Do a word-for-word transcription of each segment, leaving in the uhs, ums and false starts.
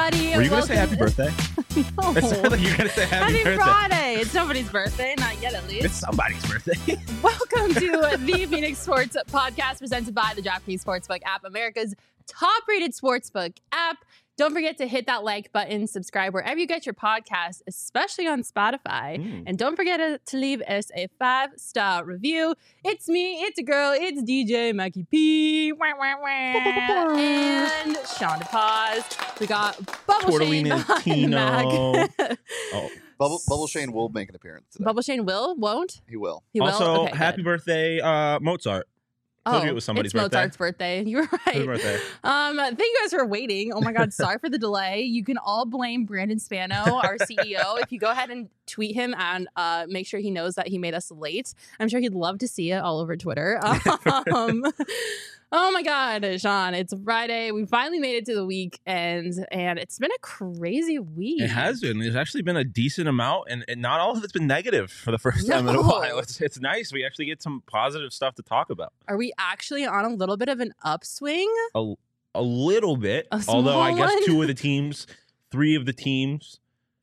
everybody. Were you going to say happy birthday? No. It sounded like you were going to say happy, Happy birthday. Friday. It's somebody's birthday, not yet at least. It's somebody's birthday. Welcome to the Phoenix Sports Podcast presented by the DraftKings Sportsbook app, America's top-rated sportsbook app. Don't forget to hit that like button, subscribe wherever you get your podcasts, especially on Spotify. Mm. And don't forget to, to leave us a five-star review. It's me, it's a girl, it's D J Mackie P. Wah, wah, wah. And Sean DePaz. We got Bubble Shane behind the Mac. oh. Bubble, Bubble Shane will make an appearance today. Bubble Shane will? Won't? He will. He will? Also, okay, happy good. birthday, uh, Mozart. I told oh, you it was somebody's it's birthday. Mozart's birthday. You were right. His birthday. Um, thank you guys for waiting. Oh my God, sorry for the delay. You can all blame Brandon Spano, our C E O. If you go ahead and tweet him and uh, make sure he knows that he made us late, I'm sure he'd love to see it all over Twitter. Um, oh my God, Sean, it's Friday. We finally made it to the weekend, and it's been a crazy week. It has been. There's actually been a decent amount, and, and not all of it's been negative for the first time no. in a while. It's, it's nice. We actually get some positive stuff to talk about. Are we actually on a little bit of an upswing? A, a little bit. A although I guess one? two of the teams, three of the teams,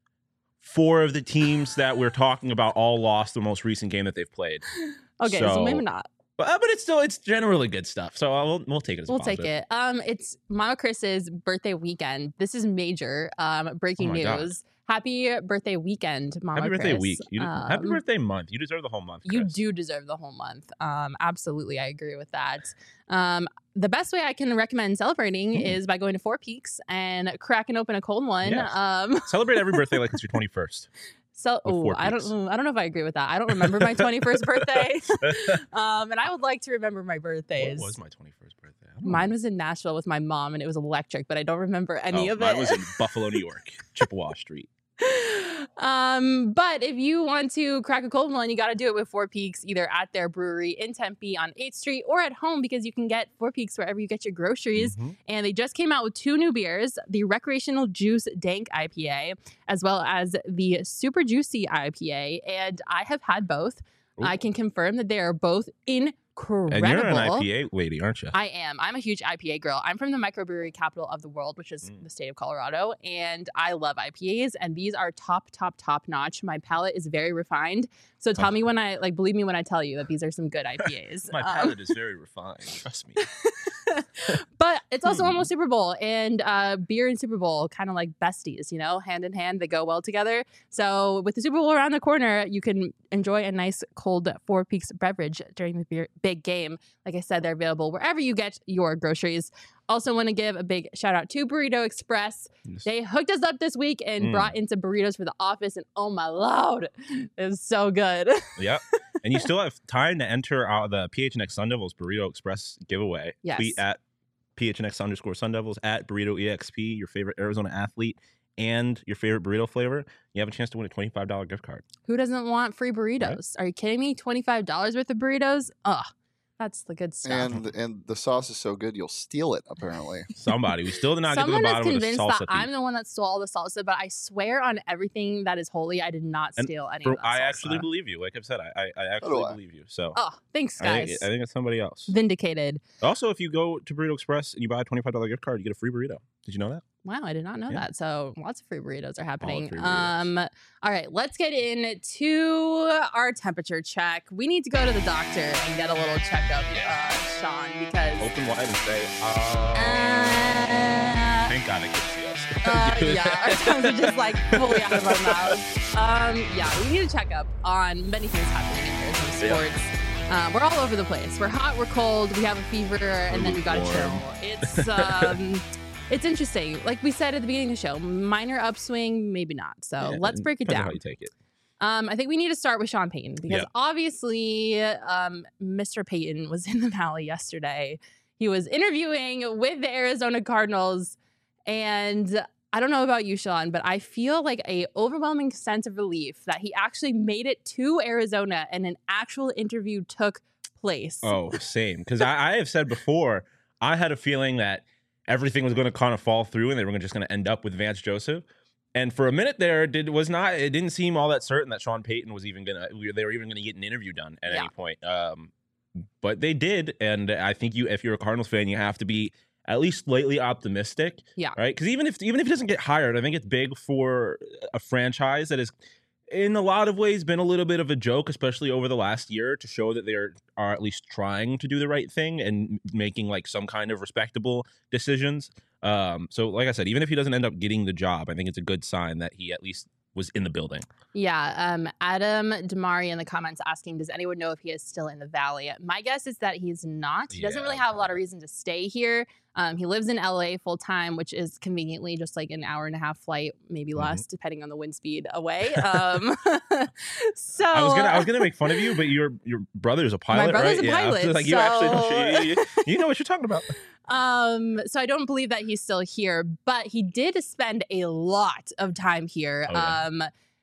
four of the teams that we're talking about all lost the most recent game that they've played. Okay, so, so maybe not. But, uh, but it's still, it's generally good stuff. So uh, we'll, we'll take it as We'll positive. take it. Um, it's Mama Chris's birthday weekend. This is major. Um, breaking Oh my news. God. Happy birthday weekend, Mama Happy Chris. birthday week. You, um, happy birthday month. You deserve the whole month, Chris. You do deserve the whole month. Um, absolutely. I agree with that. Um, the best way I can recommend celebrating mm. is by going to Four Peaks and cracking open a cold one. Yes. Um, Celebrate every birthday like it's your twenty-first. So, oh, I don't, I don't know if I agree with that. I don't remember my twenty-first birthday, um, and I would like to remember my birthdays. What was my twenty-first birthday? Mine was in Nashville with my mom, and it was electric, but I don't remember any oh, of mine it. Mine was in Buffalo, New York, Chippewa Street. Um, but if you want to crack a cold one, you got to do it with Four Peaks, either at their brewery in Tempe on eighth Street or at home, because you can get Four Peaks wherever you get your groceries. Mm-hmm. And they just came out with two new beers, the Recreational Juice Dank I P A, as well as the Super Juicy I P A. And I have had both. Ooh. I can confirm that they are both incredible. And you're an I P A lady, aren't you? I am. I'm a huge I P A girl. I'm from the microbrewery capital of the world, which is mm. the state of Colorado, and I love I P As, and these are top, top, top notch. My palate is very refined, so tell oh. me when I, like, believe me when I tell you that these are some good I P As. My palate um, is very refined, trust me. But it's also hmm. almost Super Bowl, and uh, beer and Super Bowl kind of like besties, you know, hand in hand, they go well together. So with the Super Bowl around the corner, you can enjoy a nice cold Four Peaks beverage during the beer, big game. Like I said, they're available wherever you get your groceries. Also want to give a big shout out to Burrito Express. Yes. They hooked us up this week and mm. brought in some burritos for the office, and oh my Lord, it was so good. Yep. And you still have time to enter uh, the P H N X Sun Devils Burrito Express giveaway. Yes. Tweet at P H N X underscore Sun Devils, at Burrito E X P, your favorite Arizona athlete, and your favorite burrito flavor. You have a chance to win a twenty-five dollars gift card. Who doesn't want free burritos? Right? Are you kidding me? twenty-five dollars worth of burritos? Ugh. That's the good stuff. And and the sauce is so good, you'll steal it, apparently. Somebody. We still did not Someone get to the bottom of the salsa. Someone is convinced that thief. I'm the one that stole all the salsa, but I swear on everything that is holy, I did not steal and any for, of that I salsa. actually believe you. Like I've said, I, I, I actually I. believe you. So. Oh, thanks, guys. I think, I think it's somebody else. Vindicated. Also, if you go to Burrito Express and you buy a twenty-five dollars gift card, you get a free burrito. Did you know that? Wow, I did not know yeah. that. So lots of free burritos are happening. Free burritos. Um, all right, let's get into our temperature check. We need to go to the doctor and get a little checkup, uh, Sean, because open wide and say, uh, uh thank God it can see us. uh, yeah, our tongues are just like fully out of our mouths. Um, yeah, we need a checkup on many things happening in Arizona sports. Yeah. Um, we're all over the place. We're hot, we're cold, we have a fever, and then we gotta chill. It's um. It's interesting. Like we said at the beginning of the show, minor upswing, maybe not. So yeah, let's break it down. How you take it. Um, I think we need to start with Sean Payton because yeah. obviously um, Mister Payton was in the Valley yesterday. He was interviewing with the Arizona Cardinals, and I don't know about you, Sean, but I feel like a overwhelming sense of relief that he actually made it to Arizona and an actual interview took place. Oh, same. Because I, I have said before, I had a feeling that everything was going to kind of fall through and they were just going to end up with Vance Joseph. And for a minute there, it did, was not. It didn't seem all that certain that Sean Payton was even going to. They were even going to get an interview done at yeah. any point. Um, but they did, and I think you, if you're a Cardinals fan, you have to be at least slightly optimistic. Yeah. Right. Because even if even if he doesn't get hired, I think it's big for a franchise that is, in a lot of ways, been a little bit of a joke, especially over the last year, to show that they are, are at least trying to do the right thing and making like some kind of respectable decisions. Um, so, like I said, even if he doesn't end up getting the job, I think it's a good sign that he at least was in the building. Yeah. Um, Adam Damari in the comments asking, does anyone know if he is still in the Valley? My guess is that he's not. He doesn't Yeah. really have a lot of reason to stay here. Um, he lives in L A full time, which is conveniently just like an hour and a half flight, maybe Mhm. less, depending on the wind speed away. Um, so I was gonna I was gonna make fun of you, but your your brother's a pilot, brother's right? a Yeah, I was pilot, like you actually know, so- you, you- you know what you're talking about. Um, so I don't believe that he's still here, but he did spend a lot of time here. Oh, yeah. Um,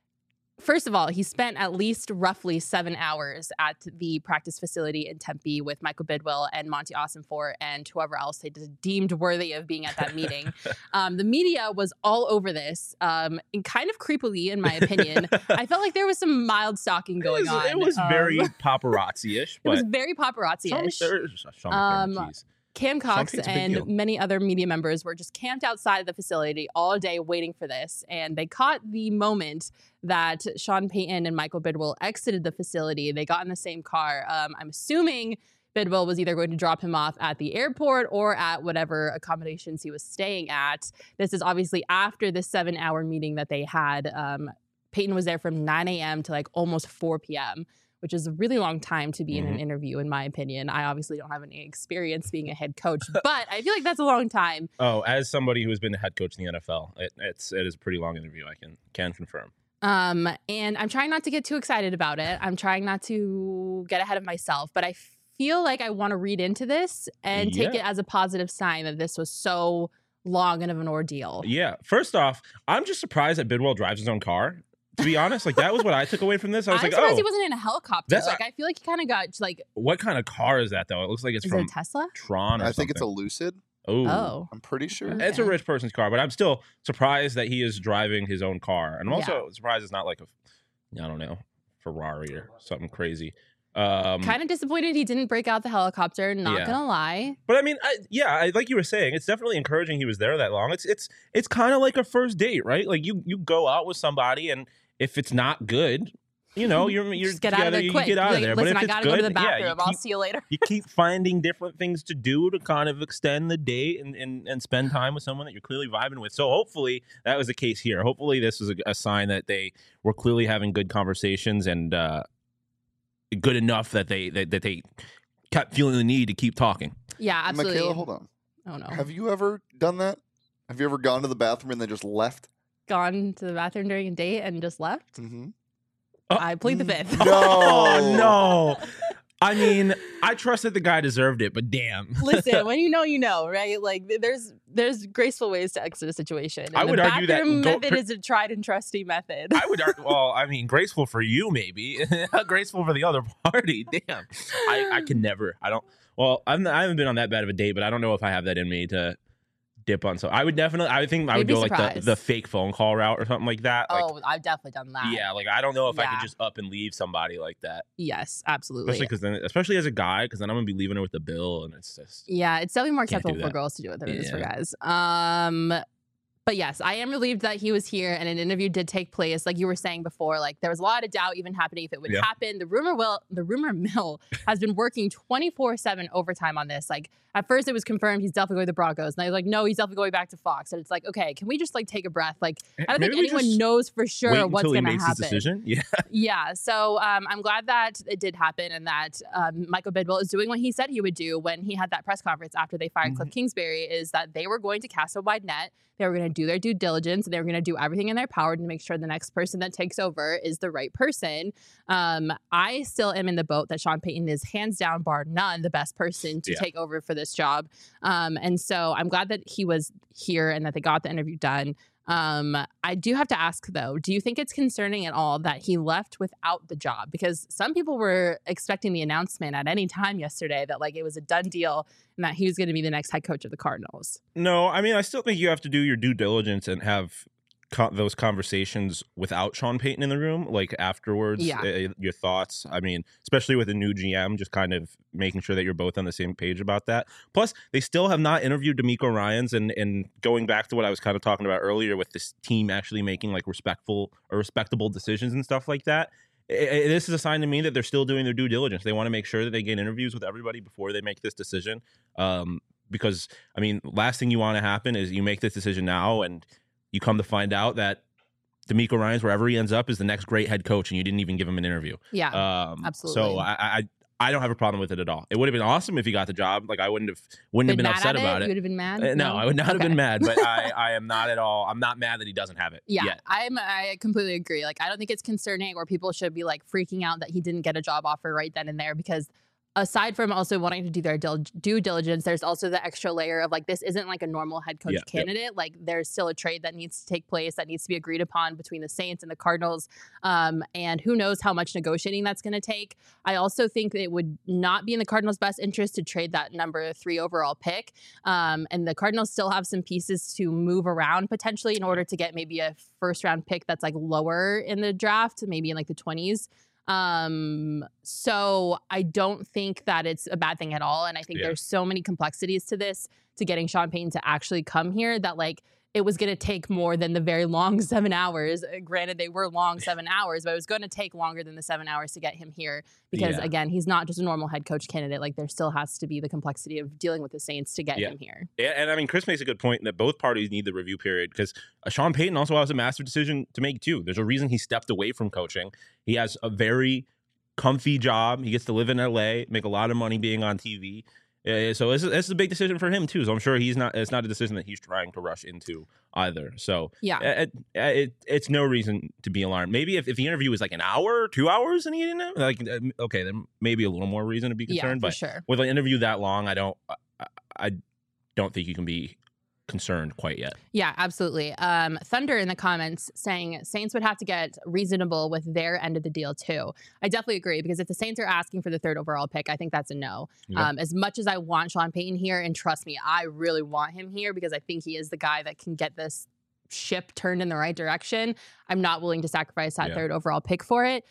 first of all, he spent at least roughly seven hours at the practice facility in Tempe with Michael Bidwill and Monty Ossenfort and whoever else they just deemed worthy of being at that meeting. Um, the media was all over this, um, and kind of creepily, in my opinion. I felt like there was some mild stalking It going was, on. it was Um, very paparazzi-ish, it but was very paparazzi-ish. Sean, there's- Sean Um, McDermott, jeez. Cam Cox Pate's a big and deal. many other media members were just camped outside of the facility all day waiting for this. And they caught the moment that Sean Payton and Michael Bidwill exited the facility. They got in the same car. Um, I'm assuming Bidwill was either going to drop him off at the airport or at whatever accommodations he was staying at. This is obviously after the seven hour meeting that they had. Um, Payton was there from nine a.m. to like almost four p.m., which is a really long time to be in an Mhm. interview, in my opinion. I obviously don't have any experience being a head coach, but I feel like that's a long time. Oh, as somebody who has been the head coach in the N F L, it, it's it is a pretty long interview. I can can confirm. Um, and I'm trying not to get too excited about it. I'm trying not to get ahead of myself, but I feel like I want to read into this and take Yeah. it as a positive sign that this was so long and of an ordeal. Yeah. First off, I'm just surprised that Bidwell drives his own car. To be honest, like that was what I took away from this. I was I'm like, surprised oh, he wasn't in a helicopter. That's- Like I feel like he kind of got like, what kind of car is that though? It looks like it's is from it a Tesla? Tron or I think it's a something. Lucid. Ooh. Oh, I'm pretty sure. Okay. It's a rich person's car, but I'm still surprised that he is driving his own car. And I'm also surprised it's not like a, I don't know, Ferrari or something crazy. Um, kind of disappointed he didn't break out the helicopter. Not Yeah. gonna lie. But I mean, I, yeah, I, like you were saying, it's definitely encouraging he was there that long. It's it's it's kind of like a first date, right? Like you you go out with somebody, and if it's not good, you know, you're you're Just get out of together, there you quick. get out Be of like, there. Listen, but I if it's gotta good, go to the yeah, bathroom. you I'll keep, see you later. you keep finding different things to do to kind of extend the date and, and, and spend time with someone that you're clearly vibing with. So hopefully that was the case here. Hopefully this was a, a sign that they were clearly having good conversations and uh, good enough that they that, that they kept feeling the need to keep talking. Yeah, absolutely. Michaela, hold on. Oh no. Have you ever done that? Have you ever gone to the bathroom and then just left? Gone to the bathroom during a date and just left? Mm-hmm. Oh. I plead the fifth. No. Oh no. I mean, I trusted the guy deserved it, but damn. Listen, when you know, you know, right? Like th- there's there's graceful ways to exit a situation. And I would the argue that bathroom go- method per- is a tried and trusty method. I would argue, well, I mean, graceful for you, maybe. Graceful for the other party. Damn. I, I can never. I don't. Well, I'm, I haven't been on that bad of a date, but I don't know if I have that in me to dip on. So I would definitely, I would think I You'd would be go like the, surprised. the fake phone call route or something like that. Like, Oh, I've definitely done that. yeah, like I don't know if I Yeah. could just up and leave somebody like that. Yes, absolutely. Especially because then, especially as a guy, because then I'm gonna be leaving her with the bill, and it's just. Yeah, it's definitely more Can't do acceptable for that. girls to do it than it is for Yeah. guys. Um, but yes, I am relieved that he was here and an interview did take place. Like you were saying before, like there was a lot of doubt even happening if it would Yeah. happen. The rumor will, the rumor mill has been working twenty-four seven overtime on this. Like at first it was confirmed he's definitely going to the Broncos, and I was like, no, he's definitely going back to Fox. And it's like, okay, can we just like take a breath? Like I don't Maybe think we anyone just knows for sure Wait what's until he going to makes happen. his decision. Yeah. Yeah, so um, I'm glad that it did happen and that um, Michael Bidwill is doing what he said he would do when he had that press conference after they fired Cliff Kingsbury, is that they were going to cast a wide net. They were going to do their due diligence, and they were going to do everything in their power to make sure the next person that takes over is the right person. Um, I still am in the boat that Sean Payton is hands down, bar none, the best person to Yeah. take over for this job. Um, and so I'm glad that he was here and that they got the interview done. Um, I do have to ask though, do you think it's concerning at all that he left without the job? Because some people were expecting the announcement at any time yesterday that like it was a done deal and that he was going to be the next head coach of the Cardinals. No, I mean, I still think you have to do your due diligence and have co- those conversations without Sean Payton in the room, like afterwards, Yeah. uh, your thoughts. I mean, especially with a new G M, just kind of making sure that you're both on the same page about that. Plus, they still have not interviewed D'Amico Ryans, and and going back to what I was kind of talking about earlier with this team actually making like respectful or respectable decisions and stuff like that. I- I- this is a sign to me that they're still doing their due diligence. They want to make sure that they get interviews with everybody before they make this decision. Um, because I mean, last thing you want to happen is you make this decision now and you come to find out that D'Amico Ryans, wherever he ends up, is the next great head coach, and you didn't even give him an interview. Yeah, Um, absolutely. So I, I I don't have a problem with it at all. It would have been awesome if he got the job. Like I wouldn't have wouldn't have been mad upset at about You it. would have been mad? Uh, no, I would not have Okay. been mad, but I, I am not at all. I'm not mad that he doesn't have it Yeah, yet. I'm. I completely agree. Like, I don't think it's concerning or people should be like freaking out that he didn't get a job offer right then and there, because aside from also wanting to do their dil- due diligence, there's also the extra layer of like, this isn't like a normal head coach Yeah, yeah. candidate. Like, there's still a trade that needs to take place that needs to be agreed upon between the Saints and the Cardinals. Um, and who knows how much negotiating that's going to take. I also think that it would not be in the Cardinals' best interest to trade that number three overall pick. Um, and the Cardinals still have some pieces to move around potentially in order to get maybe a first round pick that's like lower in the draft, maybe in like the twenties. Um, so I don't think that it's a bad thing at all. And I think Yeah. there's so many complexities to this, to getting Sean Payton to actually come here, that like it was going to take more than the very long seven hours. Uh, Granted, they were long seven hours, but it was going to take longer than the seven hours to get him here because, Yeah. again, he's not just a normal head coach candidate. Like, there still has to be the complexity of dealing with the Saints to get Yeah. him here. Yeah, and I mean, Chris makes a good point that both parties need the review period because uh, Sean Payton also has a massive decision to make too. There's a reason he stepped away from coaching. He has a very comfy job. He gets to live in L A, make a lot of money being on T V. Uh, so this is, this is a big decision for him too. So I'm sure he's not. It's not a decision that he's trying to rush into either. So Yeah. it, it, it, it's no reason to be alarmed. Maybe if, if the interview was like an hour, two hours, and he didn't have, like, uh, okay, then maybe a little more reason to be Yeah, concerned. for but sure. with an interview that long, I don't. I, I don't think you can be concerned quite yet. Yeah, absolutely. Um, Thunder in the comments saying Saints would have to get reasonable with their end of the deal too. I definitely agree, because if the Saints are asking for the third overall pick, I think that's a no. Yeah. Um, as much as I want Sean Payton here, and trust me, I really want him here because I think he is the guy that can get this ship turned in the right direction, I'm not willing to sacrifice that Yeah. third overall pick for it.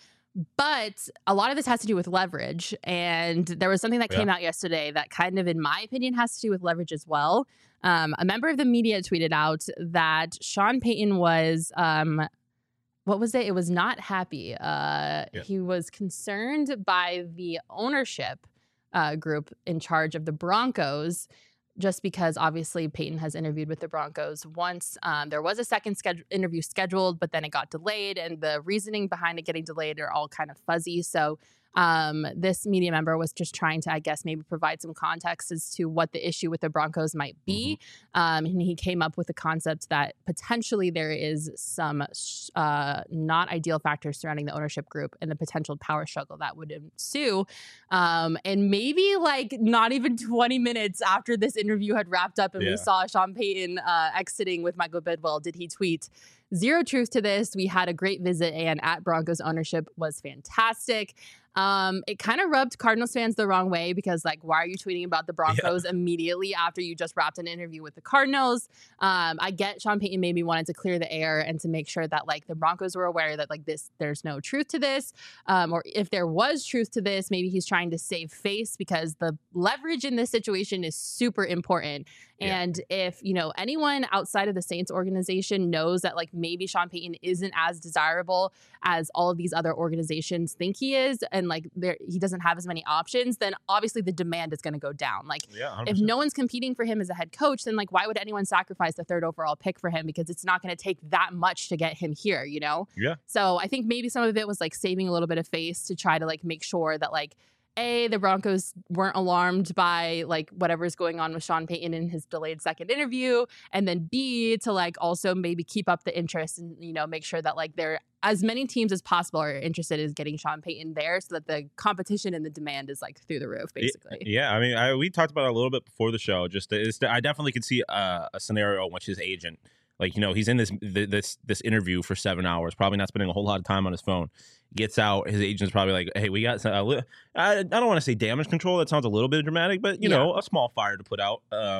But a lot of this has to do with leverage. And there was something that Yeah. came out yesterday that kind of, in my opinion, has to do with leverage as well. Um, a member of the media tweeted out that Sean Payton was, um, what was it? It was not happy. Uh, Yeah. He was concerned by the ownership uh, group in charge of the Broncos, just because obviously Peyton has interviewed with the Broncos once. Um, there was a second schedule, interview scheduled, but then it got delayed, and the reasoning behind it getting delayed are all kind of fuzzy. So um, this media member was just trying to, I guess, maybe provide some context as to what the issue with the Broncos might be. Um, and he came up with the concept that potentially there is some uh, not ideal factors surrounding the ownership group and the potential power struggle that would ensue. Um, and maybe like not even twenty minutes after this interview had wrapped up and Yeah. we saw Sean Payton uh, exiting with Michael Bidwell, did he tweet, "Zero truth to this. We had a great visit and at Broncos ownership was fantastic." Um, it kind of rubbed Cardinals fans the wrong way because, like, why are you tweeting about the Broncos immediately after you just wrapped an interview with the Cardinals? Um, I get Sean Payton maybe wanted to clear the air and to make sure that, like, the Broncos were aware that, like, this, there's no truth to this. Um, or if there was truth to this, maybe he's trying to save face because the leverage in this situation is super important. Yeah. And if, you know, anyone outside of the Saints organization knows that, like, maybe Sean Payton isn't as desirable as all of these other organizations think he is, and like there he doesn't have as many options, then obviously the demand is going to go down. Like, Yeah, one hundred if percent. no one's competing for him as a head coach, then like why would anyone sacrifice the third overall pick for him? Because it's not going to take that much to get him here, you know? Yeah. So I think maybe some of it was like saving a little bit of face to try to like make sure that like A, the Broncos weren't alarmed by like whatever's going on with Sean Payton in his delayed second interview, and then B, to like also maybe keep up the interest and, you know, make sure that like there as many teams as possible are interested in getting Sean Payton there so that the competition and the demand is like through the roof, basically. Yeah, I mean, I, we talked about it a little bit before the show. Just it's, I definitely could see a, a scenario in which his agent, like, you know, he's in this this this interview for seven hours, probably not spending a whole lot of time on his phone. Gets out, his agent's probably like, "Hey, we got some, a li- I, I don't want to say damage control. That sounds a little bit dramatic, but you Yeah. know, a small fire to put out." Um,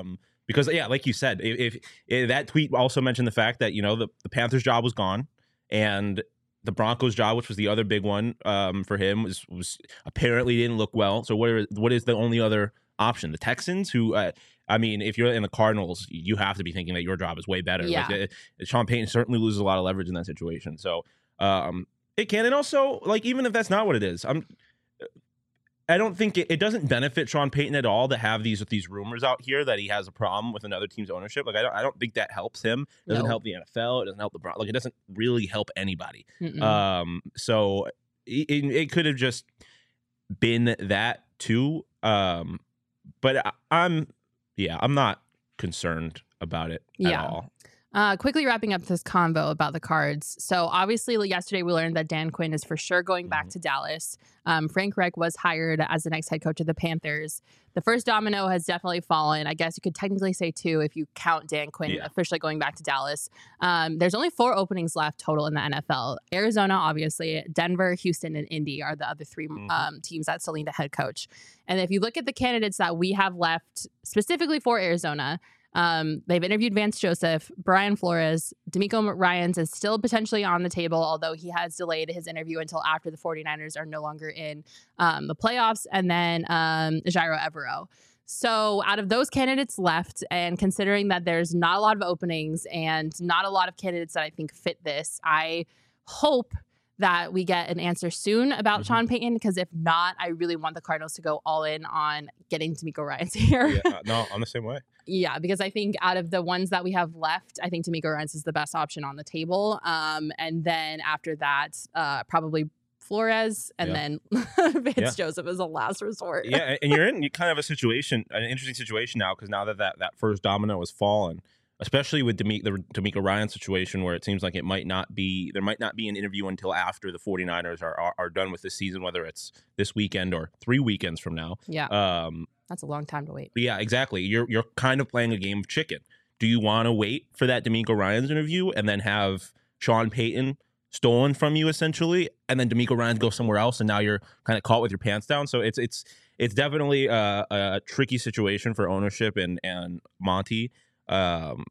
Because yeah, like you said, if, if, if that tweet also mentioned the fact that you know the, the Panthers job was gone, and the Broncos job, which was the other big one um, for him, was was apparently didn't look well. So what are, what is the only other option? The Texans, who uh, I mean, if you're in the Cardinals, you have to be thinking that your job is way better. Yeah. Like, uh, Sean Payton certainly loses a lot of leverage in that situation. So um, it can, and also like even if that's not what it is, I'm. I don't think it, it doesn't benefit Sean Payton at all to have these these rumors out here that he has a problem with another team's ownership. Like I don't I don't think that helps him. It doesn't No. help the N F L. It doesn't help the Bron- like it doesn't really help anybody. Mm-mm. Um, so it, it could have just been that too. Um, but I, I'm yeah I'm not concerned about it at Yeah. all. Uh, quickly wrapping up this convo about the Cards. So obviously like, yesterday we learned that Dan Quinn is for sure going back to Dallas. Um, Frank Reich was hired as the next head coach of the Panthers. The first domino has definitely fallen. I guess you could technically say two if you count Dan Quinn Yeah. officially going back to Dallas. Um, there's only four openings left total in the N F L. Arizona, obviously, Denver, Houston, and Indy are the other three Mhm. um, teams that still need a head coach. And if you look at the candidates that we have left specifically for Arizona, Um, they've interviewed Vance Joseph, Brian Flores, D'Amico Ryans is still potentially on the table, although he has delayed his interview until after the 49ers are no longer in um, the playoffs, and then um, Jairo Evero. So out of those candidates left, and considering that there's not a lot of openings and not a lot of candidates that I think fit this, I hope that we get an answer soon about Mhm. Sean Payton, because if not, I really want the Cardinals to go all in on getting D'Amico Ryans here. Yeah, uh, no, I'm the same way. Yeah, because I think out of the ones that we have left, I think D'Amico Ryans is the best option on the table. Um, and then after that, uh, probably Flores, and Yeah. then Vance Yeah. Joseph is a last resort. Yeah, and you're in kind of a situation, an interesting situation now, because now that, that that first domino has fallen, especially with Demi- the D'Amico Ryan situation, where it seems like it might not be, there might not be an interview until after the 49ers are are, are done with this season, whether it's this weekend or three weekends from now. Yeah, Um, that's a long time to wait. but yeah, exactly. You're you're kind of playing a game of chicken. Do you want to wait for that D'Amico Ryan's interview and then have Sean Payton stolen from you essentially, and then D'Amico Ryan's go somewhere else, and now you're kind of caught with your pants down? So it's it's it's definitely a, a tricky situation for ownership and and Monty. Um,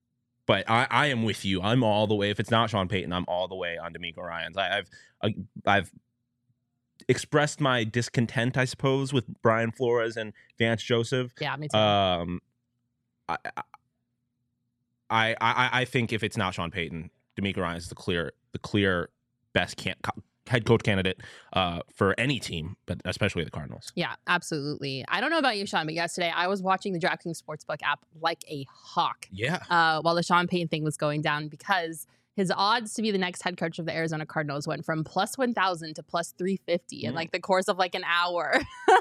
but I, I am with you. I'm all the way. If it's not Sean Payton, I'm all the way on D'Amico Ryans. I, I've I, I've expressed my discontent, I suppose, with Brian Flores and Vance Joseph. Yeah, me too. Um, I, I I I think if it's not Sean Payton, D'Amico Ryans is the clear the clear best can, head coach candidate uh, for any team, but especially the Cardinals. Yeah, absolutely. I don't know about you, Sean, but yesterday I was watching the DraftKings Sportsbook app like a hawk Yeah. uh, while the Sean Payton thing was going down, because his odds to be the next head coach of the Arizona Cardinals went from plus one thousand to plus three fifty in Mm. like the course of like an hour.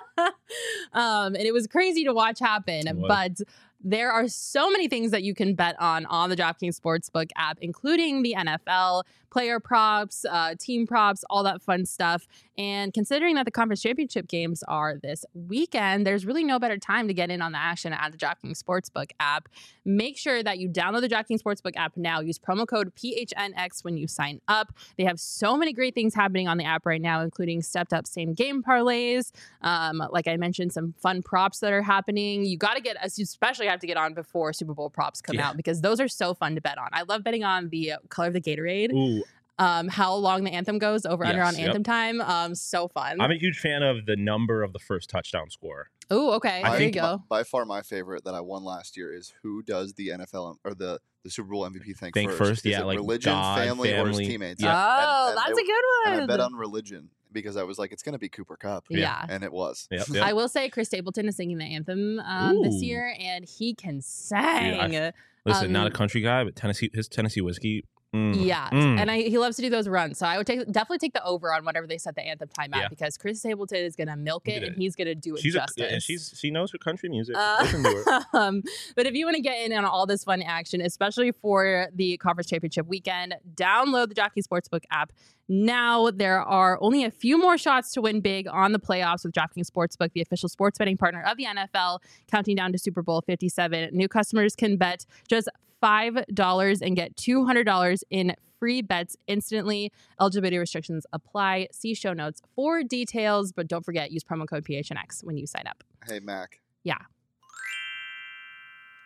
um, and it was crazy to watch happen. It was. But there are so many things that you can bet on on the DraftKings Sportsbook app, including the N F L, player props, uh, team props, all that fun stuff. And considering that the conference championship games are this weekend, there's really no better time to get in on the action at the DraftKings Sportsbook app. Make sure that you download the DraftKings Sportsbook app now. Use promo code P H N X when you sign up. They have so many great things happening on the app right now, including stepped up same game parlays. Um, like I mentioned, some fun props that are happening. You got to get, you especially have to get on before Super Bowl props come Yeah. out, because those are so fun to bet on. I love betting on the color of the Gatorade, Ooh, um, how long the anthem goes over under Yes, on yep. anthem time. Um, so fun. I'm a huge fan of the number of the first touchdown score. Oh, okay. I There think you My- go. by far, my favorite that I won last year is who does the N F L or the, the Super Bowl M V P thing Think first. first, Is yeah, it like religion, God, family, or his family. teammates. Yeah. Oh, And- and that's it- a good And one. I bet on religion because I was like, it's going to be Cooper Cup. Yeah. And it was. Yep, yep. I will say Chris Stapleton is singing the anthem um, this Ooh. year, and he can sing. Listen, not a Um, country guy, but Tennessee, his Tennessee whiskey. mm, Yeah, mm. and I, he loves to do those runs. So I would take definitely take the over on whatever they set the anthem time at, Yeah. because Chris Stapleton is going to milk He it, did and it. he's going to do it she's a, justice. yeah, she's she knows her country music. Uh, Listen to her. um, but if you want to get in on all this fun action, especially for the conference championship weekend, download the DraftKings Sportsbook app. Now there are only a few more shots to win big on the playoffs with DraftKings Sportsbook, the official sports betting partner of the N F L, counting down to Super Bowl fifty-seven. New customers can bet just five dollars and get two hundred dollars in free bets instantly. Eligibility restrictions apply. See show notes for details, but don't forget, use promo code P H N X when you sign up. Hey, Mac. Yeah.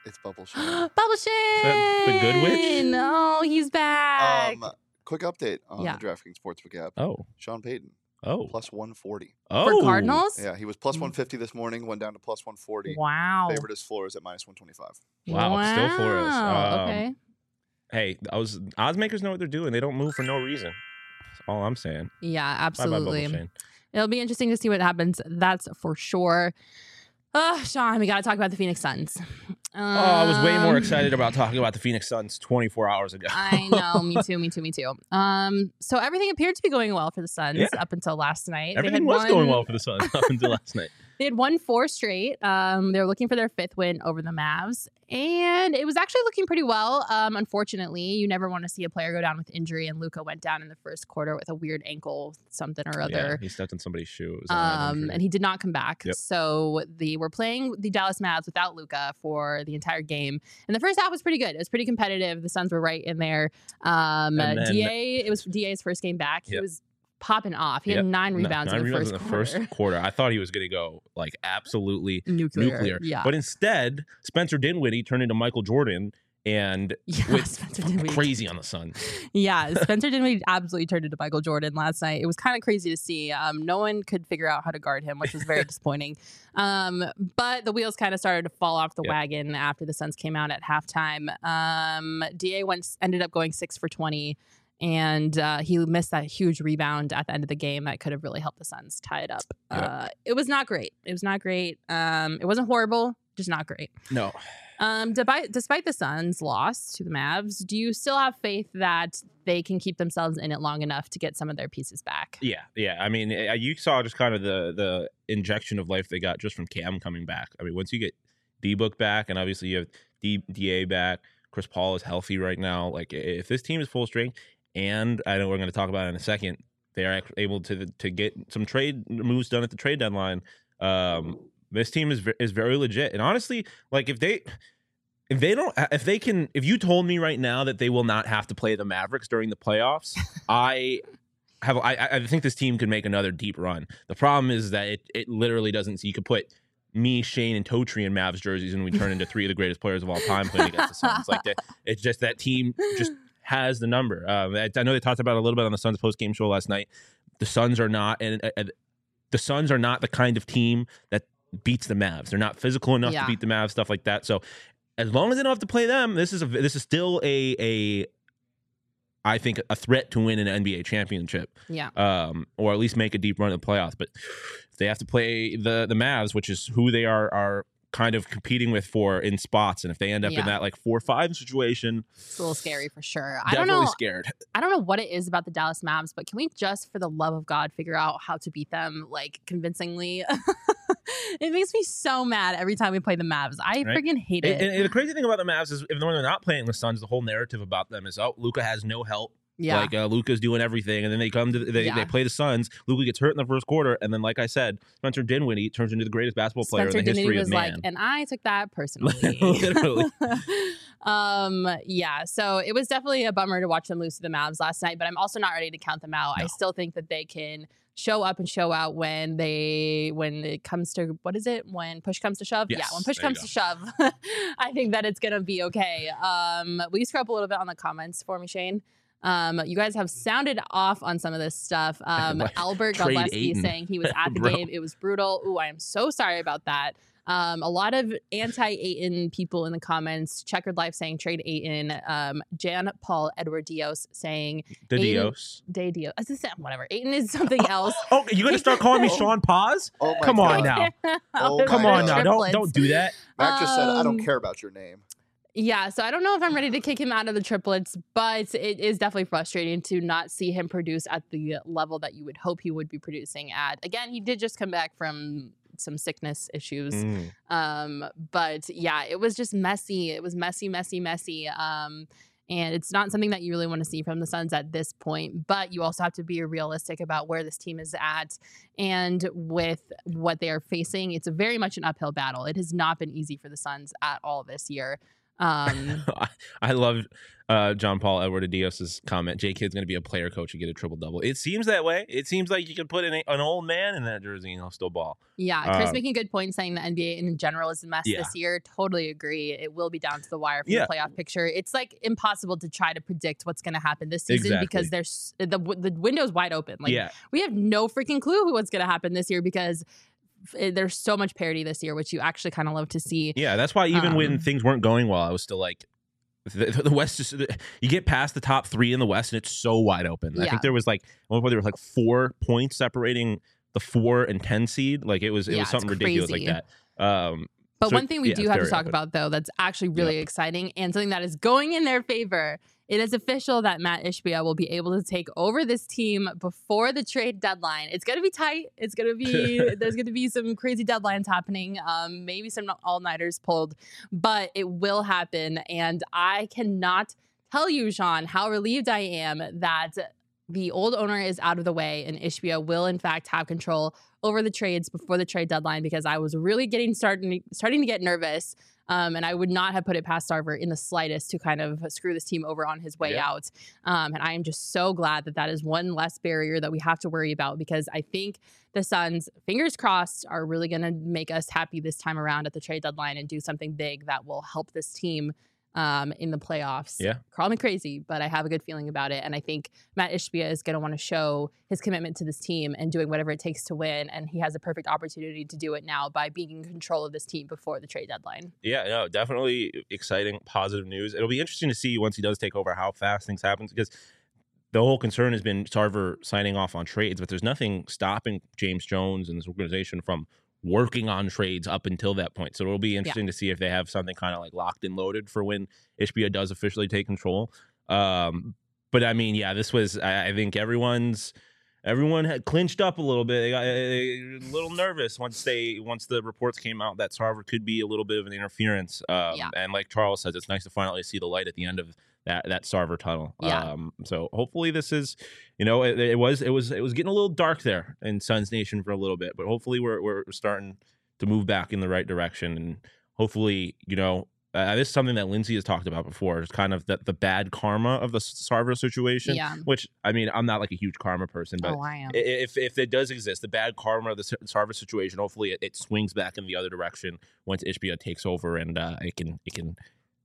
It's Bubble Shane. Bubble Shane. that the good witch? No, he's back. Um, quick update on Yeah. the DraftKings Sportsbook app. Oh. Sean Payton, Oh. plus one forty. Oh. For Cardinals? Yeah, he was plus one fifty this morning, went down to plus one forty. Wow. Favorite is Flores at minus one twenty-five. Wow, still Flores. Wow, Um, okay. Hey, I was odds makers know what they're doing. They don't move for no reason. That's all I'm saying. Yeah, Bye-bye, Bubble absolutely. Shane. It'll be interesting to see what happens. That's for sure. Oh, Sean, we got to talk about the Phoenix Suns. Um, Oh, I was way more excited about talking about the Phoenix Suns twenty-four hours ago. I know, me too, me too, me too. Um, so everything appeared to be going well for the Suns Yeah. up until last night. Everything they had was won, going well for the Suns up until last night. They had won four straight. Um, they were looking for their fifth win over the Mavs, and it was actually looking pretty well. Um, unfortunately, you never want to see a player go down with injury, and Luka went down in the first quarter with a weird ankle, something or Yeah, other. he stepped in somebody's shoe. It was Um, and he did not come back. Yep. So they were playing the Dallas Mavs without Luka for the entire game. And the first half was pretty good. It was pretty competitive. The Suns were right in there. Um, And then- D A, it was D A's first game back. He Yep. was popping off. He Yep. had nine No, rebounds nine in the rebounds first in the quarter. first quarter. I thought he was going to go like absolutely nuclear. nuclear. Yeah. But instead, Spencer Dinwiddie turned into Michael Jordan and yeah, went Spencer Dinwiddie. crazy on the Suns. Yeah, Spencer Dinwiddie absolutely turned into Michael Jordan last night. It was kind of crazy to see. Um, no one could figure out how to guard him, which was very disappointing. Um, but the wheels kind of started to fall off the Yep. wagon after the Suns came out at halftime. Um, D A went ended up going six for twenty, and uh, he missed that huge rebound at the end of the game that could have really helped the Suns tie it up. Yep. Uh, it was not great. It was not great. Um, it wasn't horrible, just not great. No. Um, despite, despite the Suns' loss to the Mavs, do you still have faith that they can keep themselves in it long enough to get some of their pieces back? Yeah, yeah. I mean, eh, you saw just kind of the the injection of life they got just from Cam coming back. I mean, once you get D-Book back, and obviously you have D- DA back, Chris Paul is healthy right now. Like, if this team is full strength, and I know we're going to talk about it in a second, they are ac- able to to get some trade moves done at the trade deadline. Um, this team is ve- is very legit, and honestly, like if they. If they don't, if they can, if you told me right now that they will not have to play the Mavericks during the playoffs, I have, I, I think this team could make another deep run. The problem is that it, it literally doesn't. So you could put me, Shane, and Totri in Mavs jerseys, and we turn into three of the greatest players of all time playing against the Suns. Like that, it's just that team just has the number. Um, I, I know they talked about it a little bit on the Suns post game show last night. The Suns are not, and, and the Suns are not the kind of team that beats the Mavs. They're not physical enough Yeah. to beat the Mavs, stuff like that. So. As long as they don't have to play them, this is a this is still a a I think a threat to win an N B A championship, Yeah. um, or at least make a deep run in the playoffs. But if they have to play the the Mavs, which is who they are are kind of competing with for in spots, and if they end up Yeah. in that like four five situation, It's a little scary for sure. I don't definitely know. scared. I don't know what it is about the Dallas Mavs, but can we just, for the love of God, figure out how to beat them like convincingly? It makes me so mad every time we play the Mavs. I Right. freaking hate And, it. and- and the crazy thing about the Mavs is, if when they're not playing the Suns, the whole narrative about them is, oh, Luka has no help. yeah. Like uh, Luka's doing everything, and then they come to they, Yeah. they play the Suns. Luka gets hurt in the first quarter, and then, like I said, Spencer Dinwiddie turns into the greatest basketball player Spencer in the history Dinwiddie of was man. like, and I took that personally. Literally. um, yeah. So it was definitely a bummer to watch them lose to the Mavs last night, but I'm also not ready to count them out. I No. still think that they can show up and show out when they when it comes to what is it when push comes to shove. Yeah, Yes, when push there you comes to shove, I think that it's gonna be okay. Um, will you scroll up a little bit on the comments for me, Shane? Um, you guys have sounded off on some of this stuff. Um, Like, Albert trade Godleski Ayton. saying he was at the Bro. game. It was brutal. Ooh, I am so sorry about that. Um, a lot of anti-Ayton people in the comments. Checkered Life saying trade Ayton. Um, Jan Paul Edward Dios saying The Ayton- Dios. Day Dios. Is this- Whatever. Ayton is something else. Oh, you're gonna start calling me Sean Paz? Oh my Come on God. now. Oh They're my Come on God. now. Don't triplets. don't do that. Mac just said, I don't Um, care about your name. Yeah, so I don't know if I'm ready to kick him out of the triplets, but it is definitely frustrating to not see him produce at the level that you would hope he would be producing at. Again, he did just come back from some sickness issues. Mm. Um, but yeah, it was just messy. It was messy, messy, messy. Um, and it's not something that you really want to see from the Suns at this point. But you also have to be realistic about where this team is at and with what they are facing. It's a very much an uphill battle. It has not been easy for the Suns at all this year. Um, I, I love uh, John Paul Edward Adios's comment. J Kid's going to be a player coach and get a triple double. It seems that way. It seems like you can put an, an old man in that jersey and he'll still ball. Yeah, Chris Um, making a good point saying the N B A in general is a mess Yeah. this year. Totally agree. It will be down to the wire for Yeah. the playoff picture. It's like impossible to try to predict what's going to happen this season Exactly. because there's the the window's wide open. Like yeah, we have no freaking clue what's going to happen this year because f- there's so much parity this year, which you actually kind of love to see. yeah. That's why even when Um, things weren't going well, I was still like, the, the West is. You get past the top three in the West, and it's so wide open. I Yeah. think there was like, at one point there was like four points separating the four and ten seed. Like it was, it Yeah, was something it's ridiculous crazy. like that. Um, But So, one thing we yeah, do it's have to very talk open. about, though, that's actually really exciting and something that is going in their favor. It is official that Matt Ishbia will be able to take over this team before the trade deadline. It's going to be tight. It's going to be, there's going to be some crazy deadlines happening, um, maybe some all-nighters pulled, but it will happen. And I cannot tell you, Sean, how relieved I am that the old owner is out of the way and Ishbia will, in fact, have control over the trades before the trade deadline because I was really getting starting starting to get nervous. Um, and I would not have put it past Sarver in the slightest to kind of screw this team over on his way Yeah. out. Um, and I am just so glad that that is one less barrier that we have to worry about because I think the Suns, fingers crossed, are really going to make us happy this time around at the trade deadline and do something big that will help this team um, in the playoffs. Yeah. Call me crazy, but I have a good feeling about it. And I think Matt Ishbia is going to want to show his commitment to this team and doing whatever it takes to win. And he has a perfect opportunity to do it now by being in control of this team before the trade deadline. Yeah, no, definitely exciting, positive news. It'll be interesting to see once he does take over how fast things happen because the whole concern has been Sarver signing off on trades, but there's nothing stopping James Jones and this organization from working on trades up until that point. So it'll be interesting to see if they have something kind of like locked and loaded for when Ishbia does officially take control. Um, but I mean, yeah, this was, I, I think everyone's, everyone had clinched up a little bit. They got a little nervous once they once the reports came out that Sarver could be a little bit of an interference. Um, Yeah. And like Charles says, it's nice to finally see the light at the end of that that Sarver tunnel. Yeah. Um, so hopefully this is, you know, it, it was it was it was getting a little dark there in Suns Nation for a little bit, but hopefully we're we're starting to move back in the right direction, and hopefully, you know. Uh, this is something that Lindsay has talked about before. It's kind of the, the bad karma of the Sarver situation, Yeah. which, I mean, I'm not like a huge karma person, but Oh, I am. i- if if it does exist, the bad karma of the Sarver situation, hopefully it, it swings back in the other direction once Ishbia takes over, and uh, it can it can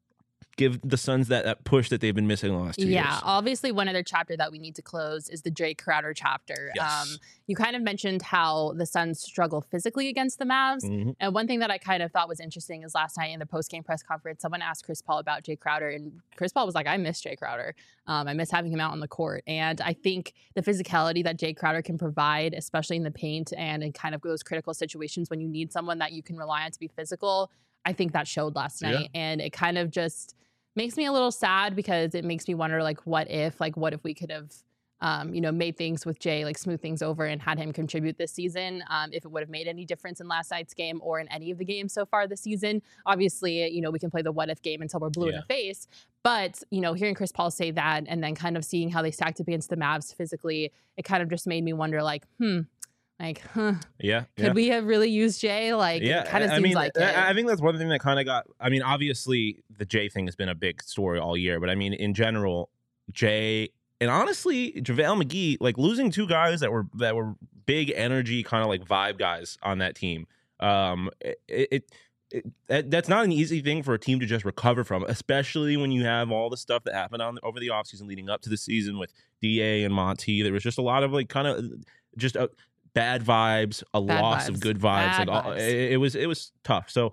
give the Suns that, that push that they've been missing the last two Yeah, years. obviously one other chapter that we need to close is the Jay Crowder chapter. Yes. Um, you kind of mentioned how the Suns struggle physically against the Mavs. Mhm. And one thing that I kind of thought was interesting is last night in the post-game press conference, someone asked Chris Paul about Jay Crowder, and Chris Paul was like, I miss Jay Crowder. Um, I miss having him out on the court. And I think the physicality that Jay Crowder can provide, especially in the paint and in kind of those critical situations when you need someone that you can rely on to be physical, I think that showed last Yeah. night. And it kind of just makes me a little sad because it makes me wonder, like, what if, like, what if we could have, um, you know, made things with Jay, like, smooth things over and had him contribute this season, um, if it would have made any difference in last night's game or in any of the games so far this season. Obviously, you know, we can play the what if game until we're blue in Yeah. the face. But, you know, hearing Chris Paul say that and then kind of seeing how they stacked up against the Mavs physically, it kind of just made me wonder, like, hmm, like, huh, Yeah, could yeah. we have really used Jay? Like, Yeah, it kind of I seems mean, like I, it. I think that's one thing that kind of got. I mean, obviously, the Jay thing has been a big story all year, but I mean, in general, Jay and honestly, JaVale McGee, like losing two guys that were that were big energy, kind of like vibe guys on that team. Um, it, it, it that, that's not an easy thing for a team to just recover from, especially when you have all the stuff that happened on over the offseason leading up to the season with D A and Monty. There was just a lot of like kind of just a. Bad vibes, a Bad loss vibes. of good vibes. Bad like all, vibes. it, it was, it was tough. So,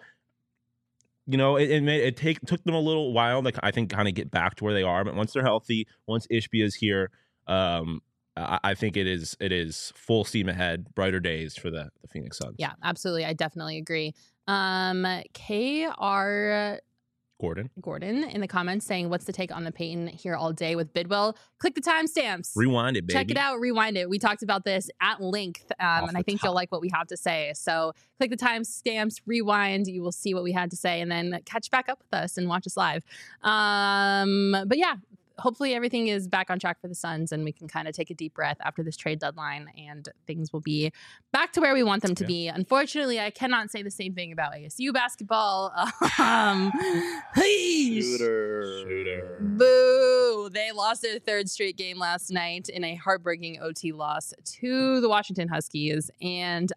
you know, it it, made, it take took them a little while, like I think, kind of get back to where they are. But once they're healthy, once Ishbia is here, um, I, I think it is it is full steam ahead, brighter days for the the Phoenix Suns. Yeah, absolutely. I definitely agree. Um, K R Gordon, Gordon in the comments saying, what's the take on the Peyton here all day with Bidwell? Click the timestamps. rewind it, baby. Check it out, rewind it. We talked about this at length, um, Off and I the think top. you'll like what we have to say. So click the timestamps, rewind. You will see what we had to say, and then catch back up with us and watch us live. Um, but yeah, hopefully everything is back on track for the Suns and we can kind of take a deep breath after this trade deadline and things will be back to where we want them to Yeah. be. Unfortunately, I cannot say the same thing about A S U basketball. Um, hey, Shooter. Shooter. boo! They lost their third straight game last night in a heartbreaking O T loss to the Washington Huskies. And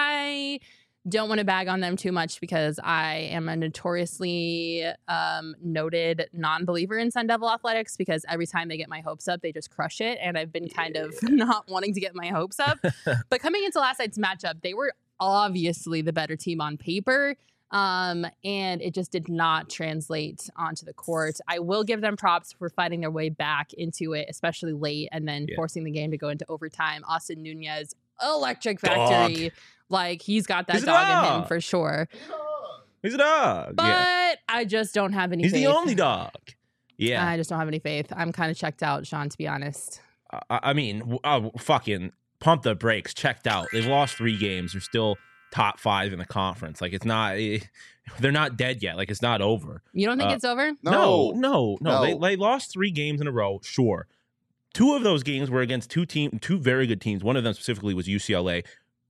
I don't want to bag on them too much because I am a notoriously um, noted non-believer in Sun Devil athletics because every time they get my hopes up, they just crush it. And I've been kind of not wanting to get my hopes up. But coming into last night's matchup, they were obviously the better team on paper. Um, and it just did not translate onto the court. I will give them props for fighting their way back into it, especially late, and then Yeah. forcing the game to go into overtime. Austin Nunez, electric factory. Dog. Like, he's got that He's a dog in him dog. for sure. He's a dog. But yeah. I just don't have any He's faith. the only dog. Yeah. I just don't have any faith. I'm kind of checked out, Sean, to be honest. I, I mean, w- oh, fucking pump the brakes. Checked out. They've lost three games. They're still top five in the conference. Like, it's not. eh, they're not dead yet. Like, it's not over. You don't think Uh, it's over? No, No. no, no. They, No. they lost three games in a row. Sure. Two of those games were against two team, two very good teams. One of them specifically was U C L A,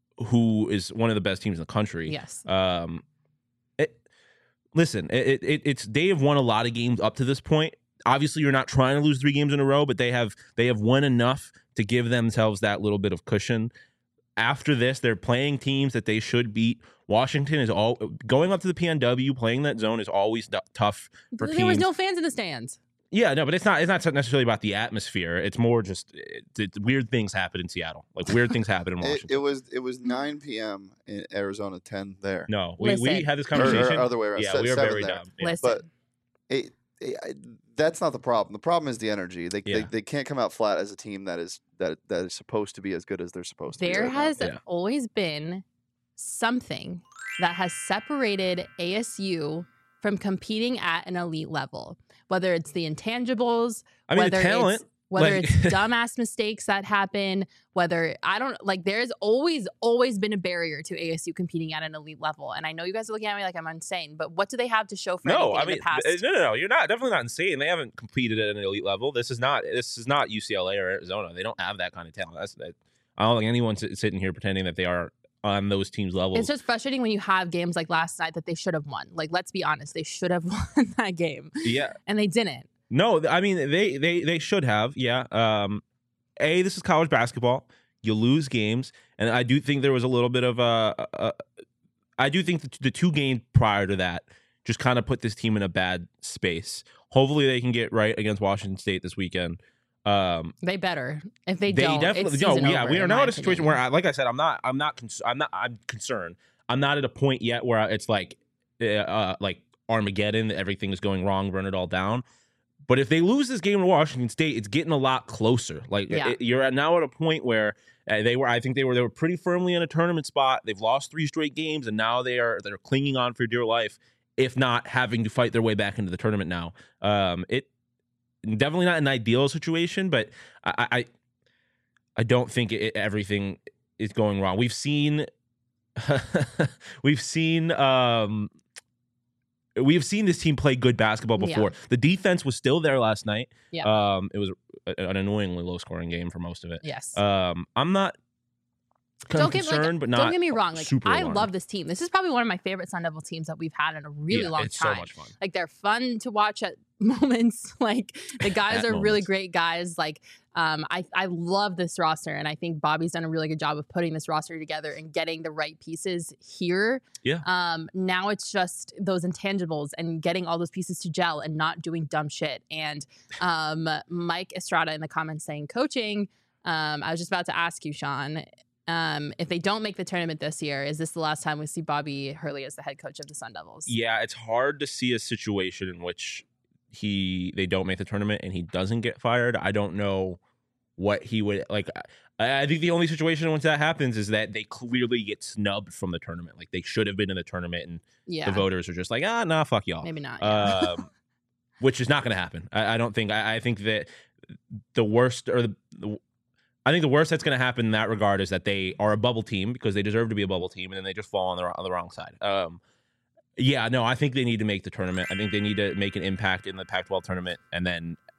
who is one of the best teams in the country. Yes. Um, it, listen, it, it it's they have won a lot of games up to this point. Obviously, you're not trying to lose three games in a row, but they have they have won enough to give themselves that little bit of cushion. After this, they're playing teams that they should beat. Washington is all going up to the P N W, playing that zone is always d- tough for There was teams. no fans in the stands. Yeah, no, but it's not. It's not necessarily about the atmosphere. It's more just it, it, weird things happen in Seattle. Like weird things happen in It, Washington. it was it was nine p.m. in Arizona, ten there. no, we, we Listen. had this Or- or conversation. other way around. Yeah, Se- we were seven very there. dumb. Yeah. Listen. But it, it, I- that's not the problem. The problem is the energy. They, Yeah. they they can't come out flat as a team that is that that is supposed to be as good as they're supposed to be. There right now. has Yeah. always been something that has separated A S U from competing at an elite level, whether it's the intangibles, I mean, the whether talent. it's whether like- it's dumbass mistakes that happen, whether I don't like there's always always been a barrier to A S U competing at an elite level. And I know you guys are looking at me like I'm insane, but what do they have to show for No, anything I in mean, the past? th- no, no, no. You're not definitely not insane. They haven't competed at an elite level. This is not. This is not U C L A or Arizona. They don't have that kind of talent. That's. That, I don't think anyone's sit- sitting here pretending that they are on those teams' levels. It's just frustrating when you have games like last night that they should have won. Like, let's be honest, they should have won that game, yeah. and they didn't. No, th- I mean they they they should have. Yeah. Um, a this is college basketball. You lose games, and I do think there was a little bit of a. a, a I do think the, the two games prior to that just kind of put this team in a bad space. Hopefully, they can get right against Washington State this weekend. Um, They better. If they, they don't, definitely it's no. season Yeah, over, we are in now my in a situation opinion. where, I, like I said, I'm not. I'm not. Cons- I'm not. I'm concerned. I'm not at a point yet where it's like, uh, uh, like Armageddon. That everything is going wrong. Burn it all down. But if they lose this game to Washington State, it's getting a lot closer. Like Yeah. it- you're at now at a point where uh, they were. I think they were. They were pretty firmly in a tournament spot. They've lost three straight games, and now they are. They're clinging on for dear life, if not having to fight their way back into the tournament now. Um, it definitely not an ideal situation, but I. I I don't think it, everything is going wrong. We've seen, we've seen, um, we've seen this team play good basketball Yeah. before. The defense was still there last night. Yeah. Um, it was a- an annoyingly low scoring game for most of it. Yes. Um, I'm not don't get concerned, like, but not. don't get me wrong. Like super I alarmed. love this team. This is probably one of my favorite Sun Devil teams that we've had in a really Yeah, long it's time. so much fun. Like they're fun to watch at moments. Like the guys At are really moments. great guys. Like um, I I love this roster, and I think Bobby's done a really good job of putting this roster together and getting the right pieces here. Yeah. Um. Now it's just those intangibles and getting all those pieces to gel and not doing dumb shit. And um, Mike Estrada in the comments saying coaching. Um, I was just about to ask you, Sean. Um, if they don't make the tournament this year, is this the last time we see Bobby Hurley as the head coach of the Sun Devils? Yeah, it's hard to see a situation in which he they don't make the tournament and he doesn't get fired. I don't know what he would like. I, I think the only situation once that happens is that they clearly get snubbed from the tournament. Like they should have been in the tournament, and Yeah. the voters are just like, ah, nah, fuck y'all. Maybe not. Yeah. Um, which is not going to happen. I, I don't think. I, I think that the worst or the, the I think the worst that's going to happen in that regard is that they are a bubble team because they deserve to be a bubble team, and then they just fall on the on the wrong side. Um, yeah, no, I think they need to make the tournament. I think they need to make an impact in the Pac twelve tournament, and then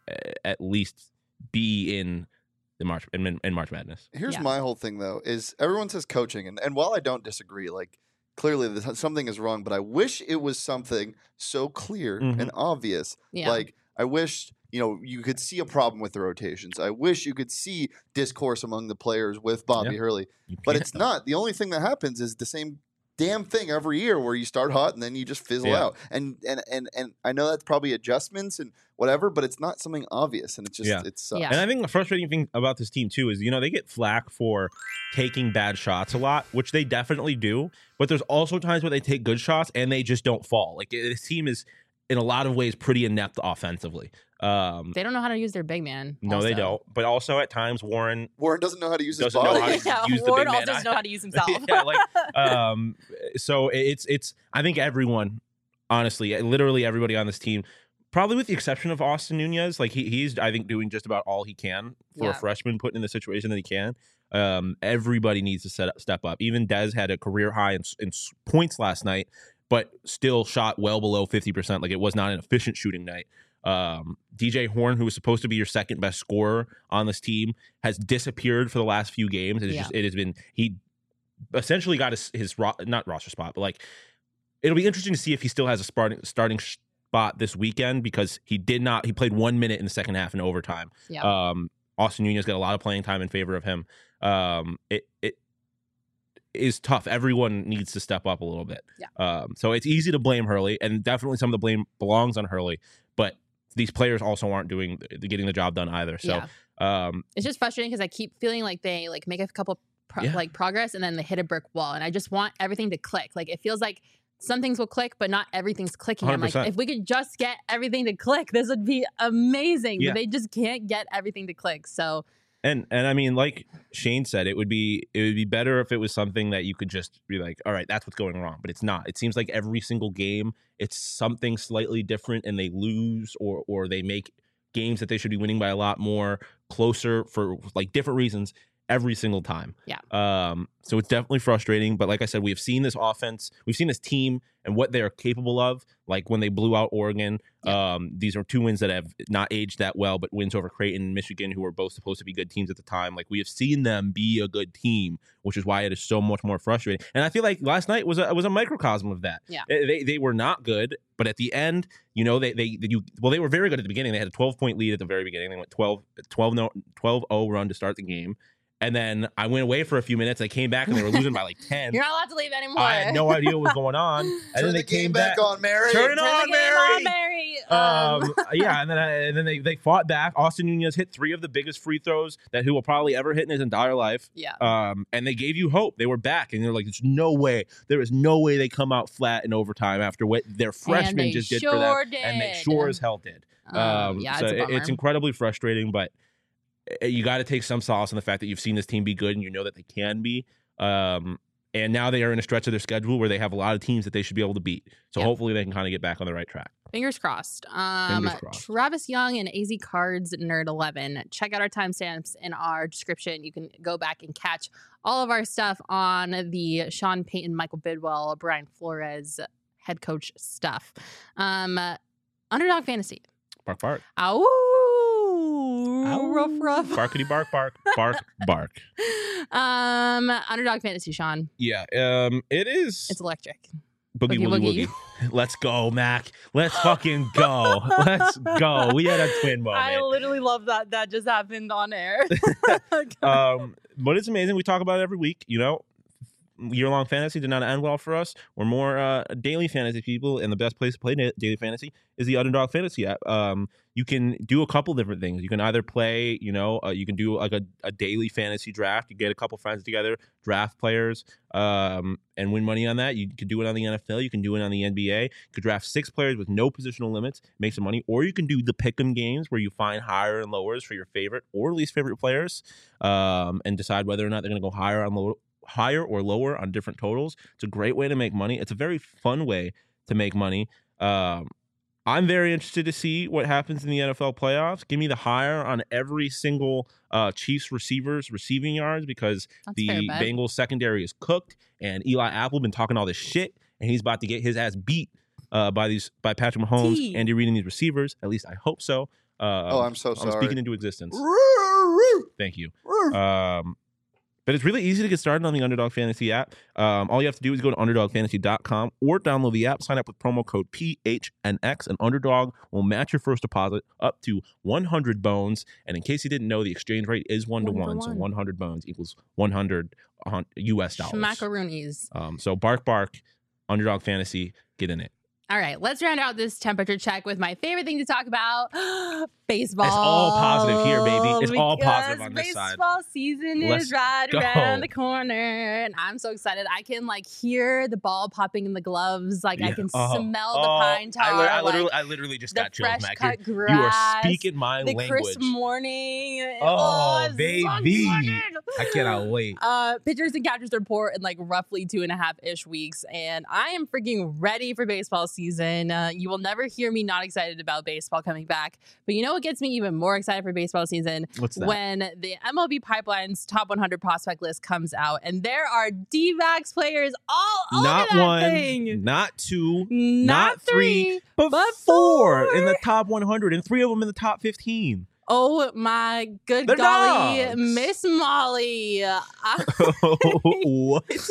uh, at least be in the March in, in March Madness. Here's Yeah. my whole thing though: is everyone says coaching, and, and while I don't disagree, like clearly this, something is wrong, but I wish it was something so clear Mhm. and obvious. Yeah. Like I wish you know you could see a problem with the rotations. I wish you could see discourse among the players with Bobby Yeah. Hurley, You but can't, it's though. not. The only thing that happens is the same damn thing every year where you start hot and then you just fizzle Yeah. out. And and and and I know that's probably adjustments and whatever, but it's not something obvious, and it's just Yeah. it sucks. Yeah. And I think the frustrating thing about this team too is, you know, they get flack for taking bad shots a lot, which they definitely do. But there's also times where they take good shots and they just don't fall. Like this team is, in a lot of ways, pretty inept offensively. Um, They don't know how to use their big man. no, they also. don't. But also at times, Warren Warren doesn't know how to use his Doesn't know body. how to- yeah, use the Warren big man. also doesn't know how to use himself. yeah, like um, so it's it's. I think everyone, honestly, literally everybody on this team, probably with the exception of Austin Nunez, like he he's I think doing just about all he can for Yeah. a freshman, put in the situation that he can. Um, everybody needs to set up, step up. Even Dez had a career high in, in points last night, but still shot well below fifty percent. Like it was not an efficient shooting night. Um, D J Horn, who was supposed to be your second best scorer on this team, has disappeared for the last few games. It's Yeah. just it has been he essentially got his his ro- not roster spot, but like it'll be interesting to see if he still has a starting starting spot this weekend, because he did not he played one minute in the second half in overtime. Yeah. Um, Austin Nunez got a lot of playing time in favor of him. Um, it it is tough. Everyone needs to step up a little bit. Yeah. Um, so it's easy to blame Hurley, and definitely some of the blame belongs on Hurley, but these players also aren't doing getting the job done either. So Yeah. um, It's just frustrating because I keep feeling like they like make a couple pro- Yeah. like progress and then they hit a brick wall, and I just want everything to click. Like it feels like some things will click, but not everything's clicking. I'm one hundred percent. like, if we could just get everything to click, this would be amazing. Yeah. But they just can't get everything to click. So And and I mean, like Shane said, it would be it would be better if it was something that you could just be like, all right, that's what's going wrong. But it's not. It seems like every single game, it's something slightly different, and they lose or or they make games that they should be winning by a lot more closer for like different reasons every single time. Yeah. Um. So it's definitely frustrating. But like I said, we have seen this offense, we've seen this team and what they are capable of. Like when they blew out Oregon. Yeah. Um. These are two wins that have not aged that well, but wins over Creighton and Michigan, who were both supposed to be good teams at the time. Like we have seen them be a good team, which is why it is so much more frustrating. And I feel like last night was a was a microcosm of that. Yeah. They they, they were not good, but at the end, you know, they they, they you well they were very good at the beginning. They had a twelve point lead at the very beginning. They went twelve oh run to start the game. And then I went away for a few minutes. I came back and they were losing by like ten. you're not allowed to leave anymore. I had no idea what was going on. And Turn then they the game came back, back. on, Mary. Turn it Turn on, the game Mary. on, Mary. Um, yeah, and then I, and then they, they fought back. Austin Nunez hit three of the biggest free throws that he will probably ever hit in his entire life. yeah. Um, and they gave you hope. They were back, and they're like, "There's no way. There is no way they come out flat in overtime after what their freshmen they just did sure for them." did. And they sure as hell did. Um, Um, yeah, so it's a it- bummer. it's incredibly frustrating, but uh, you got to take some solace in the fact that you've seen this team be good, and you know that they can be. Um, and now they are in a stretch of their schedule where they have a lot of teams that they should be able to beat. So Yeah. hopefully they can kind of get back on the right track. Fingers crossed. Um, Fingers crossed. Travis Young and A Z Cards Nerd eleven. Check out our timestamps in our description. You can go back and catch all of our stuff on the Sean Payton, Michael Bidwell, Brian Flores head coach stuff. Um, Underdog Fantasy. Bark, bark. Ow. Ow. Rough, rough. Barkity bark, bark, bark, bark. um, Underdog Fantasy, Sean. Yeah, um, it is It's electric. boogie, Boogie woogie, Woogie. woogie. Let's go, Mac. Let's fucking go. Let's go. We had a twin I moment. literally love that. That just happened on air. Um, but it's amazing. We talk about it every week. You know, year-long fantasy did not end well for us. We're more uh, daily fantasy people, and the best place to play da- daily fantasy is the Underdog Fantasy app. Um, you can do a couple different things. You can either play, you know, uh, you can do like a, a daily fantasy draft. You get a couple friends together, draft players, um, and win money on that. You could do it on the N F L. You can do it on the N B A. You could draft six players with no positional limits, make some money. Or you can do the pick'em games where you find higher and lowers for your favorite or least favorite players, um, and decide whether or not they're going to go higher on low. higher or lower on different totals. It's a great way to make money. It's a very fun way to make money. Um, I'm very interested to see what happens in the N F L playoffs. Give me the higher on every single uh, Chiefs receivers receiving yards, because That's the fair bet. Bengals secondary is cooked, and Eli Apple been talking all this shit, and he's about to get his ass beat uh, by these by Patrick Mahomes, T. Andy Reid, and these receivers. At least I hope so. Uh, Oh, I'm so I'm sorry. speaking into existence. Thank you. Um, but it's really easy to get started on the Underdog Fantasy app. Um, all you have to do is go to underdog fantasy dot com or download the app, sign up with promo code P H N X, and Underdog will match your first deposit up to one hundred bones. And in case you didn't know, the exchange rate is one to One to one. So one. one hundred bones equals one hundred U S dollars. Schmackaroonies. Um, so bark, bark, Underdog Fantasy, get in it. All right, let's round out this temperature check with my favorite thing to talk about, baseball. It's all positive here, baby. It's all positive Because on this side. Baseball season Let's is right go. around the corner, and I'm so excited. I can like hear the ball popping in the gloves. Like I Yeah. can Oh, smell oh, the pine tar. I, li- I literally, like, I literally just the got chills, fresh Mac. cut You, grass. you are speaking my the language. crisp morning. Oh, I'm so baby. excited. I cannot wait. Uh, pitchers and catchers report in like roughly two and a half ish weeks, and I am freaking ready for baseball season. Uh, you will never hear me not excited about baseball coming back. But you know what gets me even more excited for baseball season? What's that? When the M L B Pipeline's top one hundred prospect list comes out, and there are D-backs players all Not over that one, thing. not two, Not, not three, three, but, but four four. in the top one hundred, and three of them in the top fifteen. Oh my good They're golly, dogs. Miss Molly. I- What?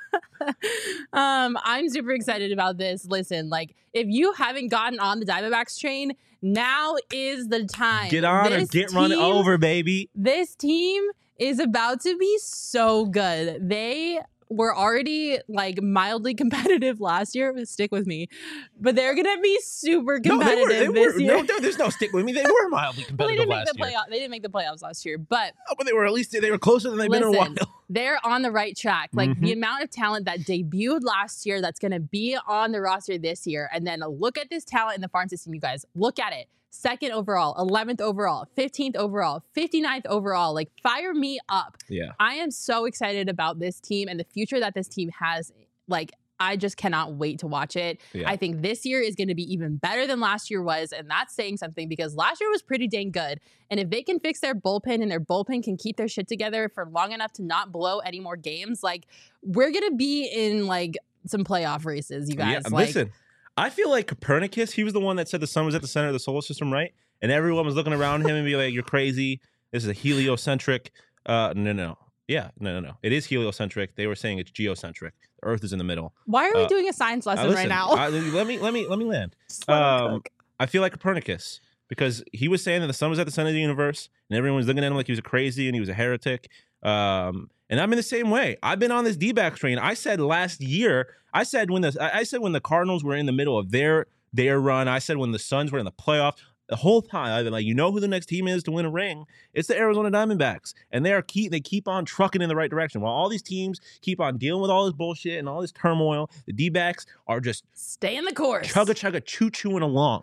um, I'm super excited about this. Listen, like if you haven't gotten on the Diamondbacks train, now is the time. Get on or This get run team- over, baby. This team is about to be so good. They were already like mildly competitive last year. Stick with me, but they're gonna be super No, they competitive were. They this were. year. No, there- there's no stick with me. They were mildly well, they competitive didn't make last the year. playoff. They didn't make the playoffs last year, but Oh, but they were at least they were closer than they've been in a Listen, while. they're on the right track. Like Mhm. the amount of talent that debuted last year that's going to be on the roster this year. And then look at this talent in the farm system, you guys. Look at it. Second overall, eleventh overall, fifteenth overall, fifty-ninth overall. Like fire me up. Yeah. I am so excited about this team and the future that this team has. Like, I just cannot wait to watch it. Yeah. I think this year is going to be even better than last year was. And that's saying something because last year was pretty dang good. And if they can fix their bullpen and their bullpen can keep their shit together for long enough to not blow any more games, like we're going to be in like some playoff races, you guys. Yeah, like, listen, I feel like Copernicus, he was the one that said the sun was at the center of the solar system, right? And everyone was looking around him and be like, you're crazy. This is a heliocentric. Uh, no, no, no. Yeah, no, no, no. It is heliocentric. They were saying it's geocentric. The Earth is in the middle. why are we uh, doing a science Uh, lesson listen, right now? I- let me, let me, let me land. Just let me Um, cook. I feel like Copernicus because he was saying that the sun was at the center of the universe, and everyone was looking at him like he was a crazy and he was a heretic. Um, and I'm in the same way. I've been on this D-backs train. I said last year. I said when the I I said when the Cardinals were in the middle of their their run. I said when the Suns were in the playoffs. The whole time I've been like, you know who the next team is to win a ring? It's the Arizona Diamondbacks, and they are keep they keep on trucking in the right direction. While all these teams keep on dealing with all this bullshit and all this turmoil, the D-backs are just Stay in the course. chugga chugga choo chooing along.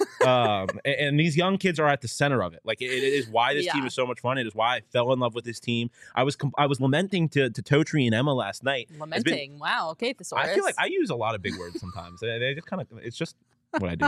um, and, and these young kids are at the center of it. Like it, it is why this Yeah. team is so much fun. It is why I fell in love with this team. I was com- I was lamenting to to Totri and Emma last night. Lamenting. Wow. Okay, thesaurus. I feel like I use a lot of big words sometimes. they, they just kind of it's just what I do.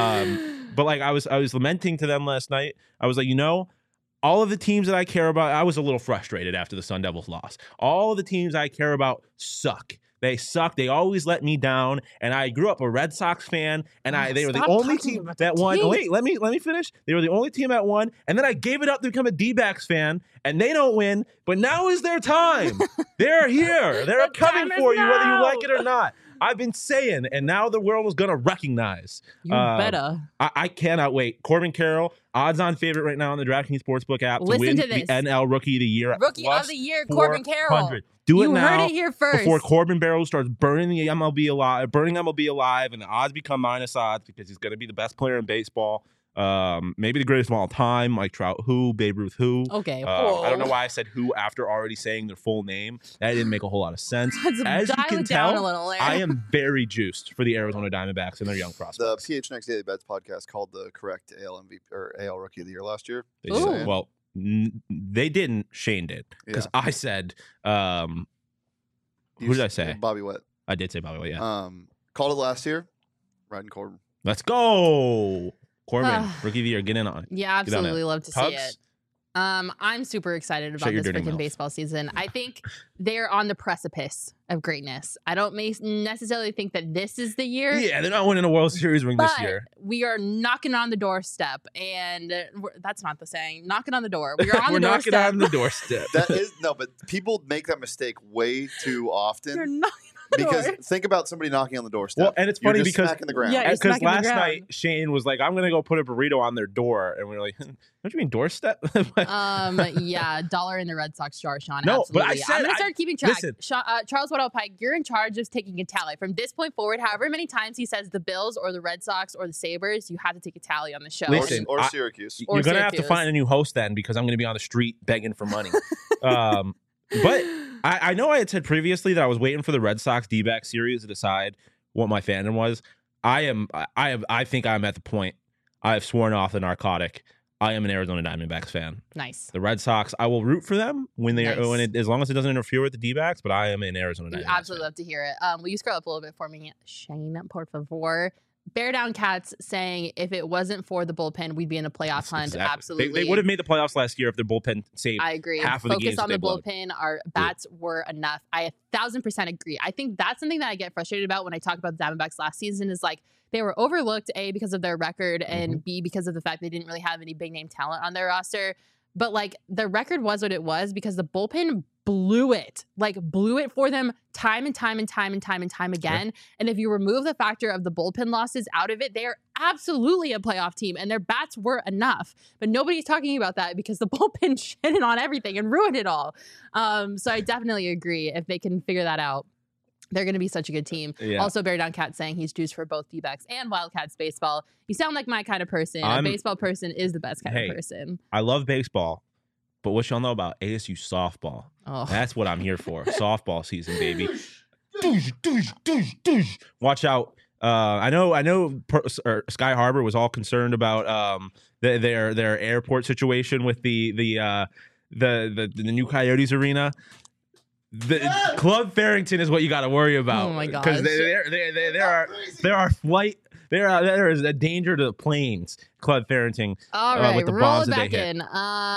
Um, but like I was I was lamenting to them last night. I was like, you know, all of the teams that I care about, I was a little frustrated after the Sun Devils lost. All of the teams I care about suck. They suck. They always let me down. And I grew up a Red Sox fan, and I Oh, they were the stop only talking team about the that won. team. Wait, let me let me finish. They were the only team that won, and then I gave it up to become a D-backs fan, and they don't win. But now is their time. They're here. They're The coming time is for you, whether you now. like it or not. I've been saying, and now the world is going to recognize. You Uh, better. I, I cannot wait. Corbin Carroll, odds-on favorite right now on the DraftKings Sportsbook app to Listen win to the this. N L Rookie of the Year. at Rookie plus of the year, Corbin Carroll. four hundred. Do it you now heard it here first. before Corbin Barrow starts burning the M L B alive, burning M L B alive, and the odds become minus odds because he's going to be the best player in baseball. Um, maybe the greatest of all time, Mike Trout, who, Babe Ruth, who. Okay. Uh, I don't know whoa. why I said who after already saying their full name. That didn't make a whole lot of sense. Let's As you dial can it down tell, a little there. I am very juiced for the Arizona Diamondbacks and their young The prospects. P H N X Daily Bets podcast called the correct A L M V P or A L Rookie of the Year last year. They Just Ooh. did. saying. Well, n- they didn't. Shane did because Yeah. I said, um, You who did I s- say? Bobby Wett. I did say Bobby Witt, yeah. Um, called it last year. Riding Corbin. Let's go, Corbin, Ah. rookie of the year. Get in on it. yeah, Get on absolutely love to see Tugs? it. Um, I'm super excited Shut about your this dirty freaking mouth. baseball season. I think they're on the precipice of greatness. I don't ma- necessarily think that this is the year. Yeah, they're not winning a World Series ring But this year. we are knocking on the doorstep, and we're, that's not the saying. Knocking on the door. We are on We're the knocking doorstep. on the doorstep. That is no, but people make that mistake way too You're often knocking on the because door. think about somebody knocking on the doorstep. Well, and it's You're funny just because- smacking the ground. Yeah, you're Because smacking the last ground. night Shane was like, "I'm gonna go put a burrito on their door," and we were like, "What do you mean doorstep?" Um, yeah, dollar in the Red Sox jar, Sean. No, but I absolutely. said- I'm gonna I- start keeping track. listen. Sean, uh, Charles Waddell Pike, you're in charge of taking a tally from this point forward. However many times he says the Bills or the Red Sox or the Sabres, you have to take a tally on the show. Or- Listen, or, I- Syracuse. Or You're gonna have to Syracuse. find a new host then, because I'm gonna be on the street begging for money. um, but I, I know I had said previously that I was waiting for the Red Sox D-back series to decide what my fandom was. I am. I have. I think I'm at the point. I have sworn off the narcotic. I am an Arizona Diamondbacks fan. Nice. The Red Sox, I will root for them when they Nice. are when it, as long as it doesn't interfere with the D-backs. But I am an Arizona We Diamondbacks absolutely fan. love to hear it. Um, will you scroll up a little bit for me, Shane, por favor? Bear Down Cats saying if it wasn't for the bullpen, we'd be in a playoff hunt. Exactly. Absolutely. They, they would have made the playoffs last year if their bullpen saved. I agree. half of the Focus games on that the they blowed. bullpen. Our bats were enough. I a thousand percent agree. I think that's something that I get frustrated about when I talk about the Diamondbacks last season is like they were overlooked, A, because of their record, and Mm-hmm. B, because of the fact they didn't really have any big name talent on their roster. But like the record was what it was because the bullpen blew it, like blew it for them time and time and time and time and time again. And if you remove the factor of the bullpen losses out of it, they are absolutely a playoff team and their bats were enough. But nobody's talking about that because the bullpen shitted on everything and ruined it all. Um, so I definitely agree. If they can figure that out, they're going to be such a good team. Yeah. Also, Bear Down Cat saying he's juiced for both D-backs and Wildcats baseball. You sound like my kind of person. I'm- a baseball person is the best kind Hey. of person. I love baseball, but what y'all know about A S U softball? Oh. That's what I'm here for. Softball season, baby. Doosh, doosh, doosh, doosh. Watch out. Uh, I know. I know. Per, or Sky Harbor was all concerned about um, the, their their airport situation with the the uh, the, the the new Coyotes arena. The Club Farrington is what you got to worry about. Oh my Because gosh. there there there there are there are flight there are there is a danger to the planes. Club Farrington. All uh, right, with the roll bombs it that they back hit. in.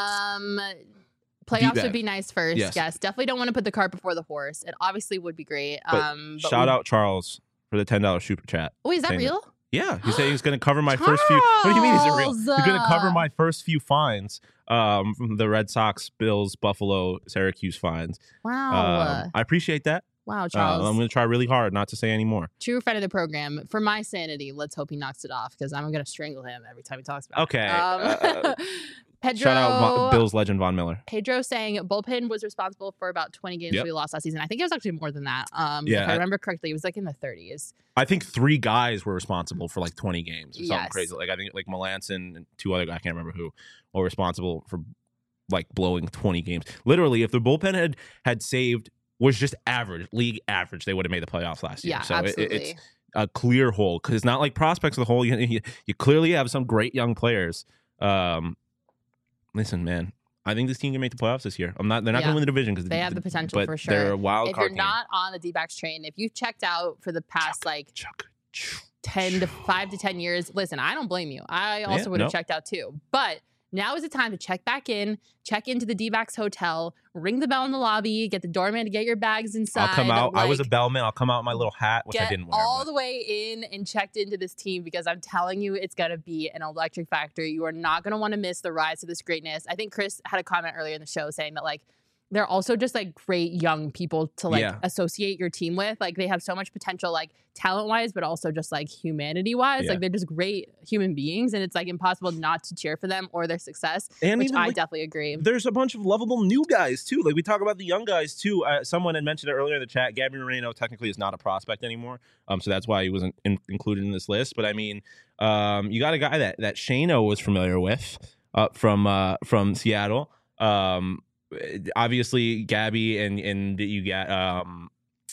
Um, playoffs D-back. would be nice first. Yes. Yes. definitely don't want to put the cart before the horse. It obviously would be great. But um, but Shout we- out Charles for the ten dollar super chat. Oh, is that saying that- real? Yeah, he said he was going to cover my first few. What do you mean? Is it real? He's Charles! going to cover my first few fines um, from the Red Sox, Bills, Buffalo, Syracuse fines. Wow. Um, I appreciate that. wow, Uh, Charles. I'm going to try really hard not to say any more. True friend of the program. For my sanity, let's hope he knocks it off because I'm going to strangle him every time he talks about Okay. it. Um, uh, Pedro, shout out Von, Bills legend Von Miller. Pedro saying bullpen was responsible for about twenty games Yep. we lost last season. I think it was actually more than that. Um, Yeah, if I I- remember correctly, it was like in the thirties. I think three guys were responsible for like twenty games or something Yes. crazy. Like I think like Melanson and two other guys, I can't remember who, were responsible for like blowing twenty games. Literally, if the bullpen had had saved was just average, league average, they would have made the playoffs last year. Yeah, so it, absolutely. it's a clear hole because it's not like prospects of the whole. You, you, you clearly have some great young players. Um, listen, man, I think this team can make the playoffs this year. I'm not. They're not Yeah. going to win the division because They have the potential but for sure. They're a wild if you're card not on the D-backs train, if you've checked out for the past like team. Chuck, chuck. ten to five to ten years, listen, I don't blame you. I also Yeah, would have no. checked out too. But now is the time to check back in, check into the D-backs hotel, ring the bell in the lobby, get the doorman to get your bags inside. I'll come out. I was a like, bellman. I'll come out in my little hat, which I get didn't wear. all but- the way in and checked into this team because I'm telling you, it's gonna be an electric factory. You are not gonna want to miss the rise to this greatness. I think Chris had a comment earlier in the show saying that like they're also just like great young people to like Yeah. associate your team with. Like they have so much potential, like talent wise, but also just like humanity wise. Yeah. Like they're just great human beings, and it's like impossible not to cheer for them or their success. And which even, I like, definitely agree. there's a bunch of lovable new guys too. Like we talk about the young guys too. Uh, someone had mentioned it earlier in the chat. Gabby Moreno technically is not a prospect anymore, um, so that's why he wasn't in- included in this list. But I mean, um, you got a guy that that Shano was familiar with uh, from uh, from Seattle. Um, obviously, Gabby and and you got um,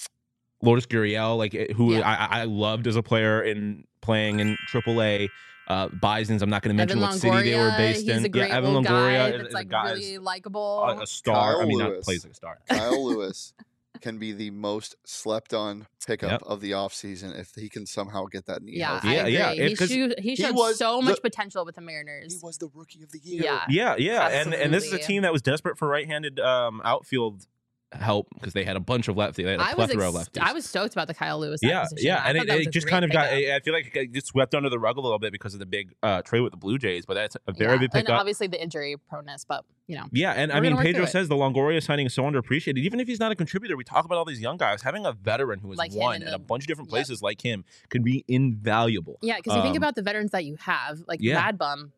Lourdes Gurriel, like who Yeah. I, I loved as a player in playing in triple A. Uh, Bison's. I'm not going to mention Evan what city they were Longoria, based he's in. a great yeah, Evan little guy Longoria that's is, is like a guy really likable. a, a star. Kyle I mean, not Lewis. plays like a star. Kyle Lewis. can be the most slept on pickup Yep. of the offseason if he can somehow get that knee Yeah, healthy. I Yeah, agree. yeah, it- he, 'cause showed, he he showed was so the- much potential with the Mariners. He was the rookie of the year. Yeah. Yeah, yeah, and and this is a Absolutely. team that was desperate for right-handed um, outfield help because they had a bunch of lefties. They had a I was plethora of ex- lefties. I was stoked about the Kyle Lewis yeah, acquisition. yeah, I and thought it, that was it a just great kind of got. pickup. I feel like it gets swept under the rug a little bit because of the big uh, trade with the Blue Jays, but that's a very Yeah, big and pickup. obviously the injury proneness, but you know, Yeah, and We're I mean, gonna work Pedro through it. says the Longoria signing is so underappreciated. Even if he's not a contributor, we talk about all these young guys. Having a veteran who has Like him won in in the- a bunch of different Yep. places like him could be invaluable. yeah, because you think Um, about the veterans that you have, like yeah. Mad Bum.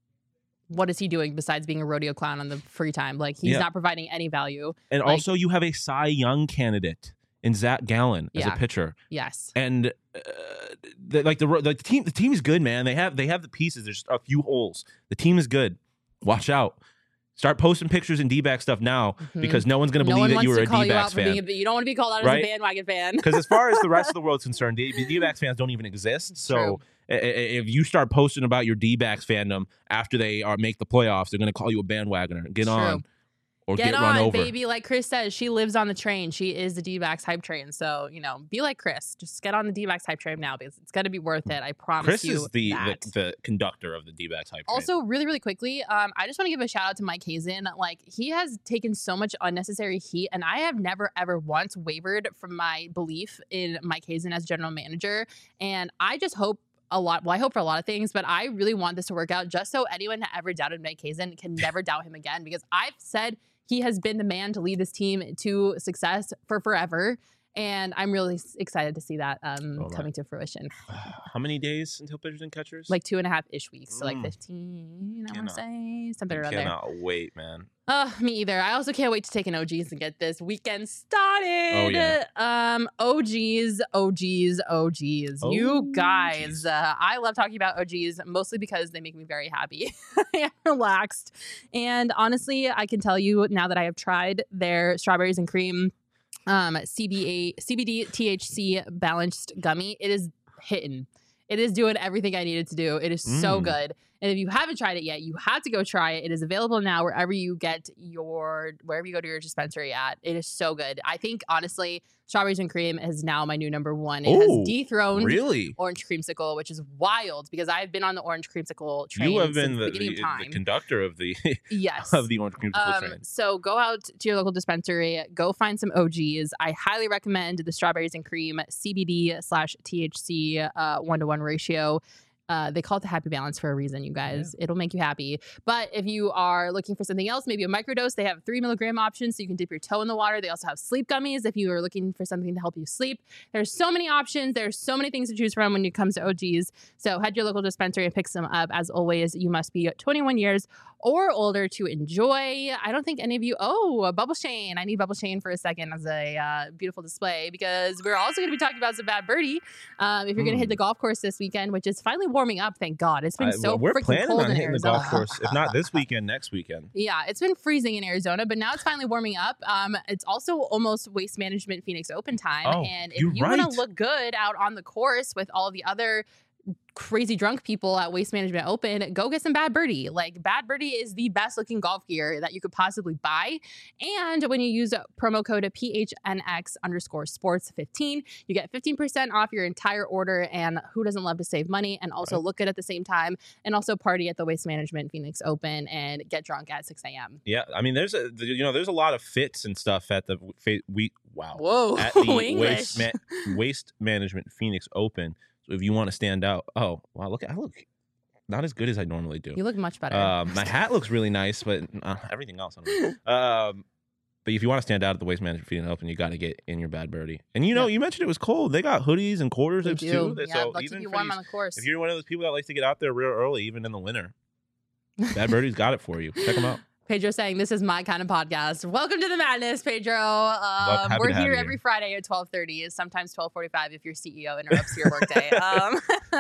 What is he doing besides being a rodeo clown on the free time? Like he's Yeah. not providing any value. And like- also, you have a Cy Young candidate in Zach Gallen as Yeah. a pitcher. Yes. And uh, the, like the like the team, the team is good, man. They have they have the pieces. There's a few holes. The team is good. Watch out. Start posting pictures and D-back stuff now Mhm. because no one's going to no believe one that wants you were to a call you out D-backs for being fan. a, you don't want to be called out Right? as a bandwagon fan. Because as far as the rest of the world's concerned, the D-backs fans don't even exist. So True. i- i- if you start posting about your D-backs fandom after they are make the playoffs, they're going to call you a bandwagoner. Get True. on or Get, get, on, run over. baby. Like Chris says, she lives on the train. She is the D-backs hype train. So, you know, be like Chris. Just get on the D-backs hype train now because it's going to be worth it. I promise Chris you is the, that. the the conductor of the D-backs hype train. Also, really, really quickly, um, I just want to give a shout out to Mike Hazen. Like, he has taken so much unnecessary heat, and I have never, ever once wavered from my belief in Mike Hazen as general manager. And I just hope a lot. Well, I hope for a lot of things, but I really want this to work out just so anyone that ever doubted Mike Hazen can never doubt him again because I've said he has been the man to lead this team to success for forever. And I'm really s- excited to see that um, Oh, my. coming to fruition. How many days until pitchers and catchers? Like two and a half ish weeks. So like Mm. fifteen, I want Cannot- to say. Something I around there. cannot wait, man. Uh, me either. I also can't wait to take an O Gs and get this weekend started. Oh, yeah. Um, O Gs, O Gs, O Gs. You O guys, Gs. uh, I love talking about O Gs mostly because they make me very happy and relaxed. And honestly, I can tell you now that I have tried their strawberries and cream um C B A C B D T H C balanced gummy, it is hitting. It is doing everything I needed to do. It is so Mm. good. And if you haven't tried it yet, you have to go try it. It is available now wherever you get your wherever you go to your dispensary at. It is so good. I think honestly, strawberries and cream is now my new number one. It Ooh, has dethroned Really? orange creamsicle, which is wild because I've been on the orange creamsicle train You have since been the the, beginning the, of time. the conductor of the yes. of the orange creamsicle Um, train. so go out to your local dispensary, go find some O Gs. I highly recommend the strawberries and cream C B D slash T H C uh, one to one ratio. Uh, they call it the happy balance for a reason, you guys. It'll make you happy. But if you are looking for something else, maybe a microdose, they have three milligram options, so you can dip your toe in the water. They also have sleep gummies if you are looking for something to help you sleep. There's so many options. There's so many things to choose from when it comes to O Gs. So head to your local dispensary and pick some up. As always, you must be twenty-one years or older to enjoy. I don't think any of you. Oh, a Bubble Shane. I need Bubble Shane for a second as a uh, beautiful display because we're also going to be talking about some bad birdie. Um, if you're going to hit the golf course this weekend, which is finally warming up, thank God. It's been I- so well, we're freaking planning cold on in hitting Arizona. the golf course, if not this weekend, next weekend. Yeah, it's been freezing in Arizona, but now it's finally warming up. Um, it's also almost Waste Management Phoenix Open time, Oh, and if you're you want right. to look good out on the course with all the other crazy drunk people at Waste Management Open, go get some Bad Birdie. Like Bad Birdie is the best looking golf gear that you could possibly buy. And when you use promo code P H N X underscore sports fifteen, you get fifteen percent off your entire order. And who doesn't love to save money and also Right. look good at the same time and also party at the Waste Management Phoenix Open and get drunk at six a.m. Yeah, I mean, there's a you know, there's a lot of fits and stuff at the fa- we wow Whoa, at the English. waste ma- waste management Phoenix Open. So if you want to stand out, oh wow, look, I look not as good as I normally do. You look much better. Um, my hat looks really nice, but uh, everything else, I don't know. Um, but if you want to stand out at the Waste Management Phoenix Open, you got to get in your Bad Birdie. And you know, Yep. you mentioned it was cold. They got hoodies and quarter They zips do. too. Yeah, So they'll even keep you for warm these- on the course. if you're one of those people that likes to get out there real early, even in the winter, Bad Birdie's got it for you. Check them out. Pedro saying this is my kind of podcast. Welcome to the madness, Pedro. Um, happy we're to have here you every here. Friday at twelve thirty. Sometimes twelve forty-five if your C E O interrupts your workday. Um,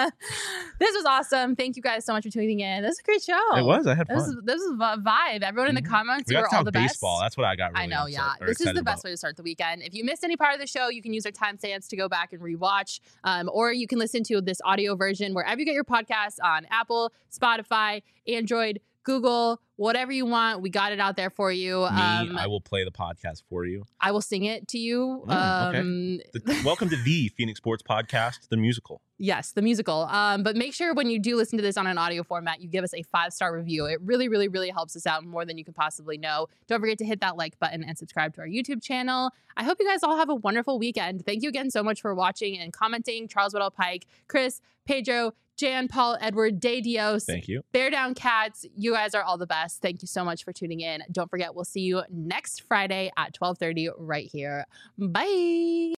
this was awesome. Thank you guys so much for tuning in. This is a great show. It was. I had This fun. is this is a vibe. Everyone in the Mhm. comments, We you got are to all talk the best. baseball. That's what I got. Really I know, upset- yeah. or This is excited the best about. way to start the weekend. If you missed any part of the show, you can use our timestamps to go back and rewatch, um, or you can listen to this audio version wherever you get your podcasts on Apple, Spotify, Android, Google, whatever you want. We got it out there for you. Me, Um, I will play the podcast for you. I will sing it to you. Mm, okay. um, The- welcome to the Phoenix Sports Podcast, the musical. Yes, the musical. Um, but make sure when you do listen to this on an audio format, you give us a five-star review. It really, really, really helps us out more than you can possibly know. Don't forget to hit that like button and subscribe to our YouTube channel. I hope you guys all have a wonderful weekend. Thank you again so much for watching and commenting. Charles Weddell Pike, Chris, Pedro, Jan, Paul, Edward, Day Dios, Thank you. Bear Down Cats. You guys are all the best. Thank you so much for tuning in. Don't forget, we'll see you next Friday at twelve thirty right here. Bye.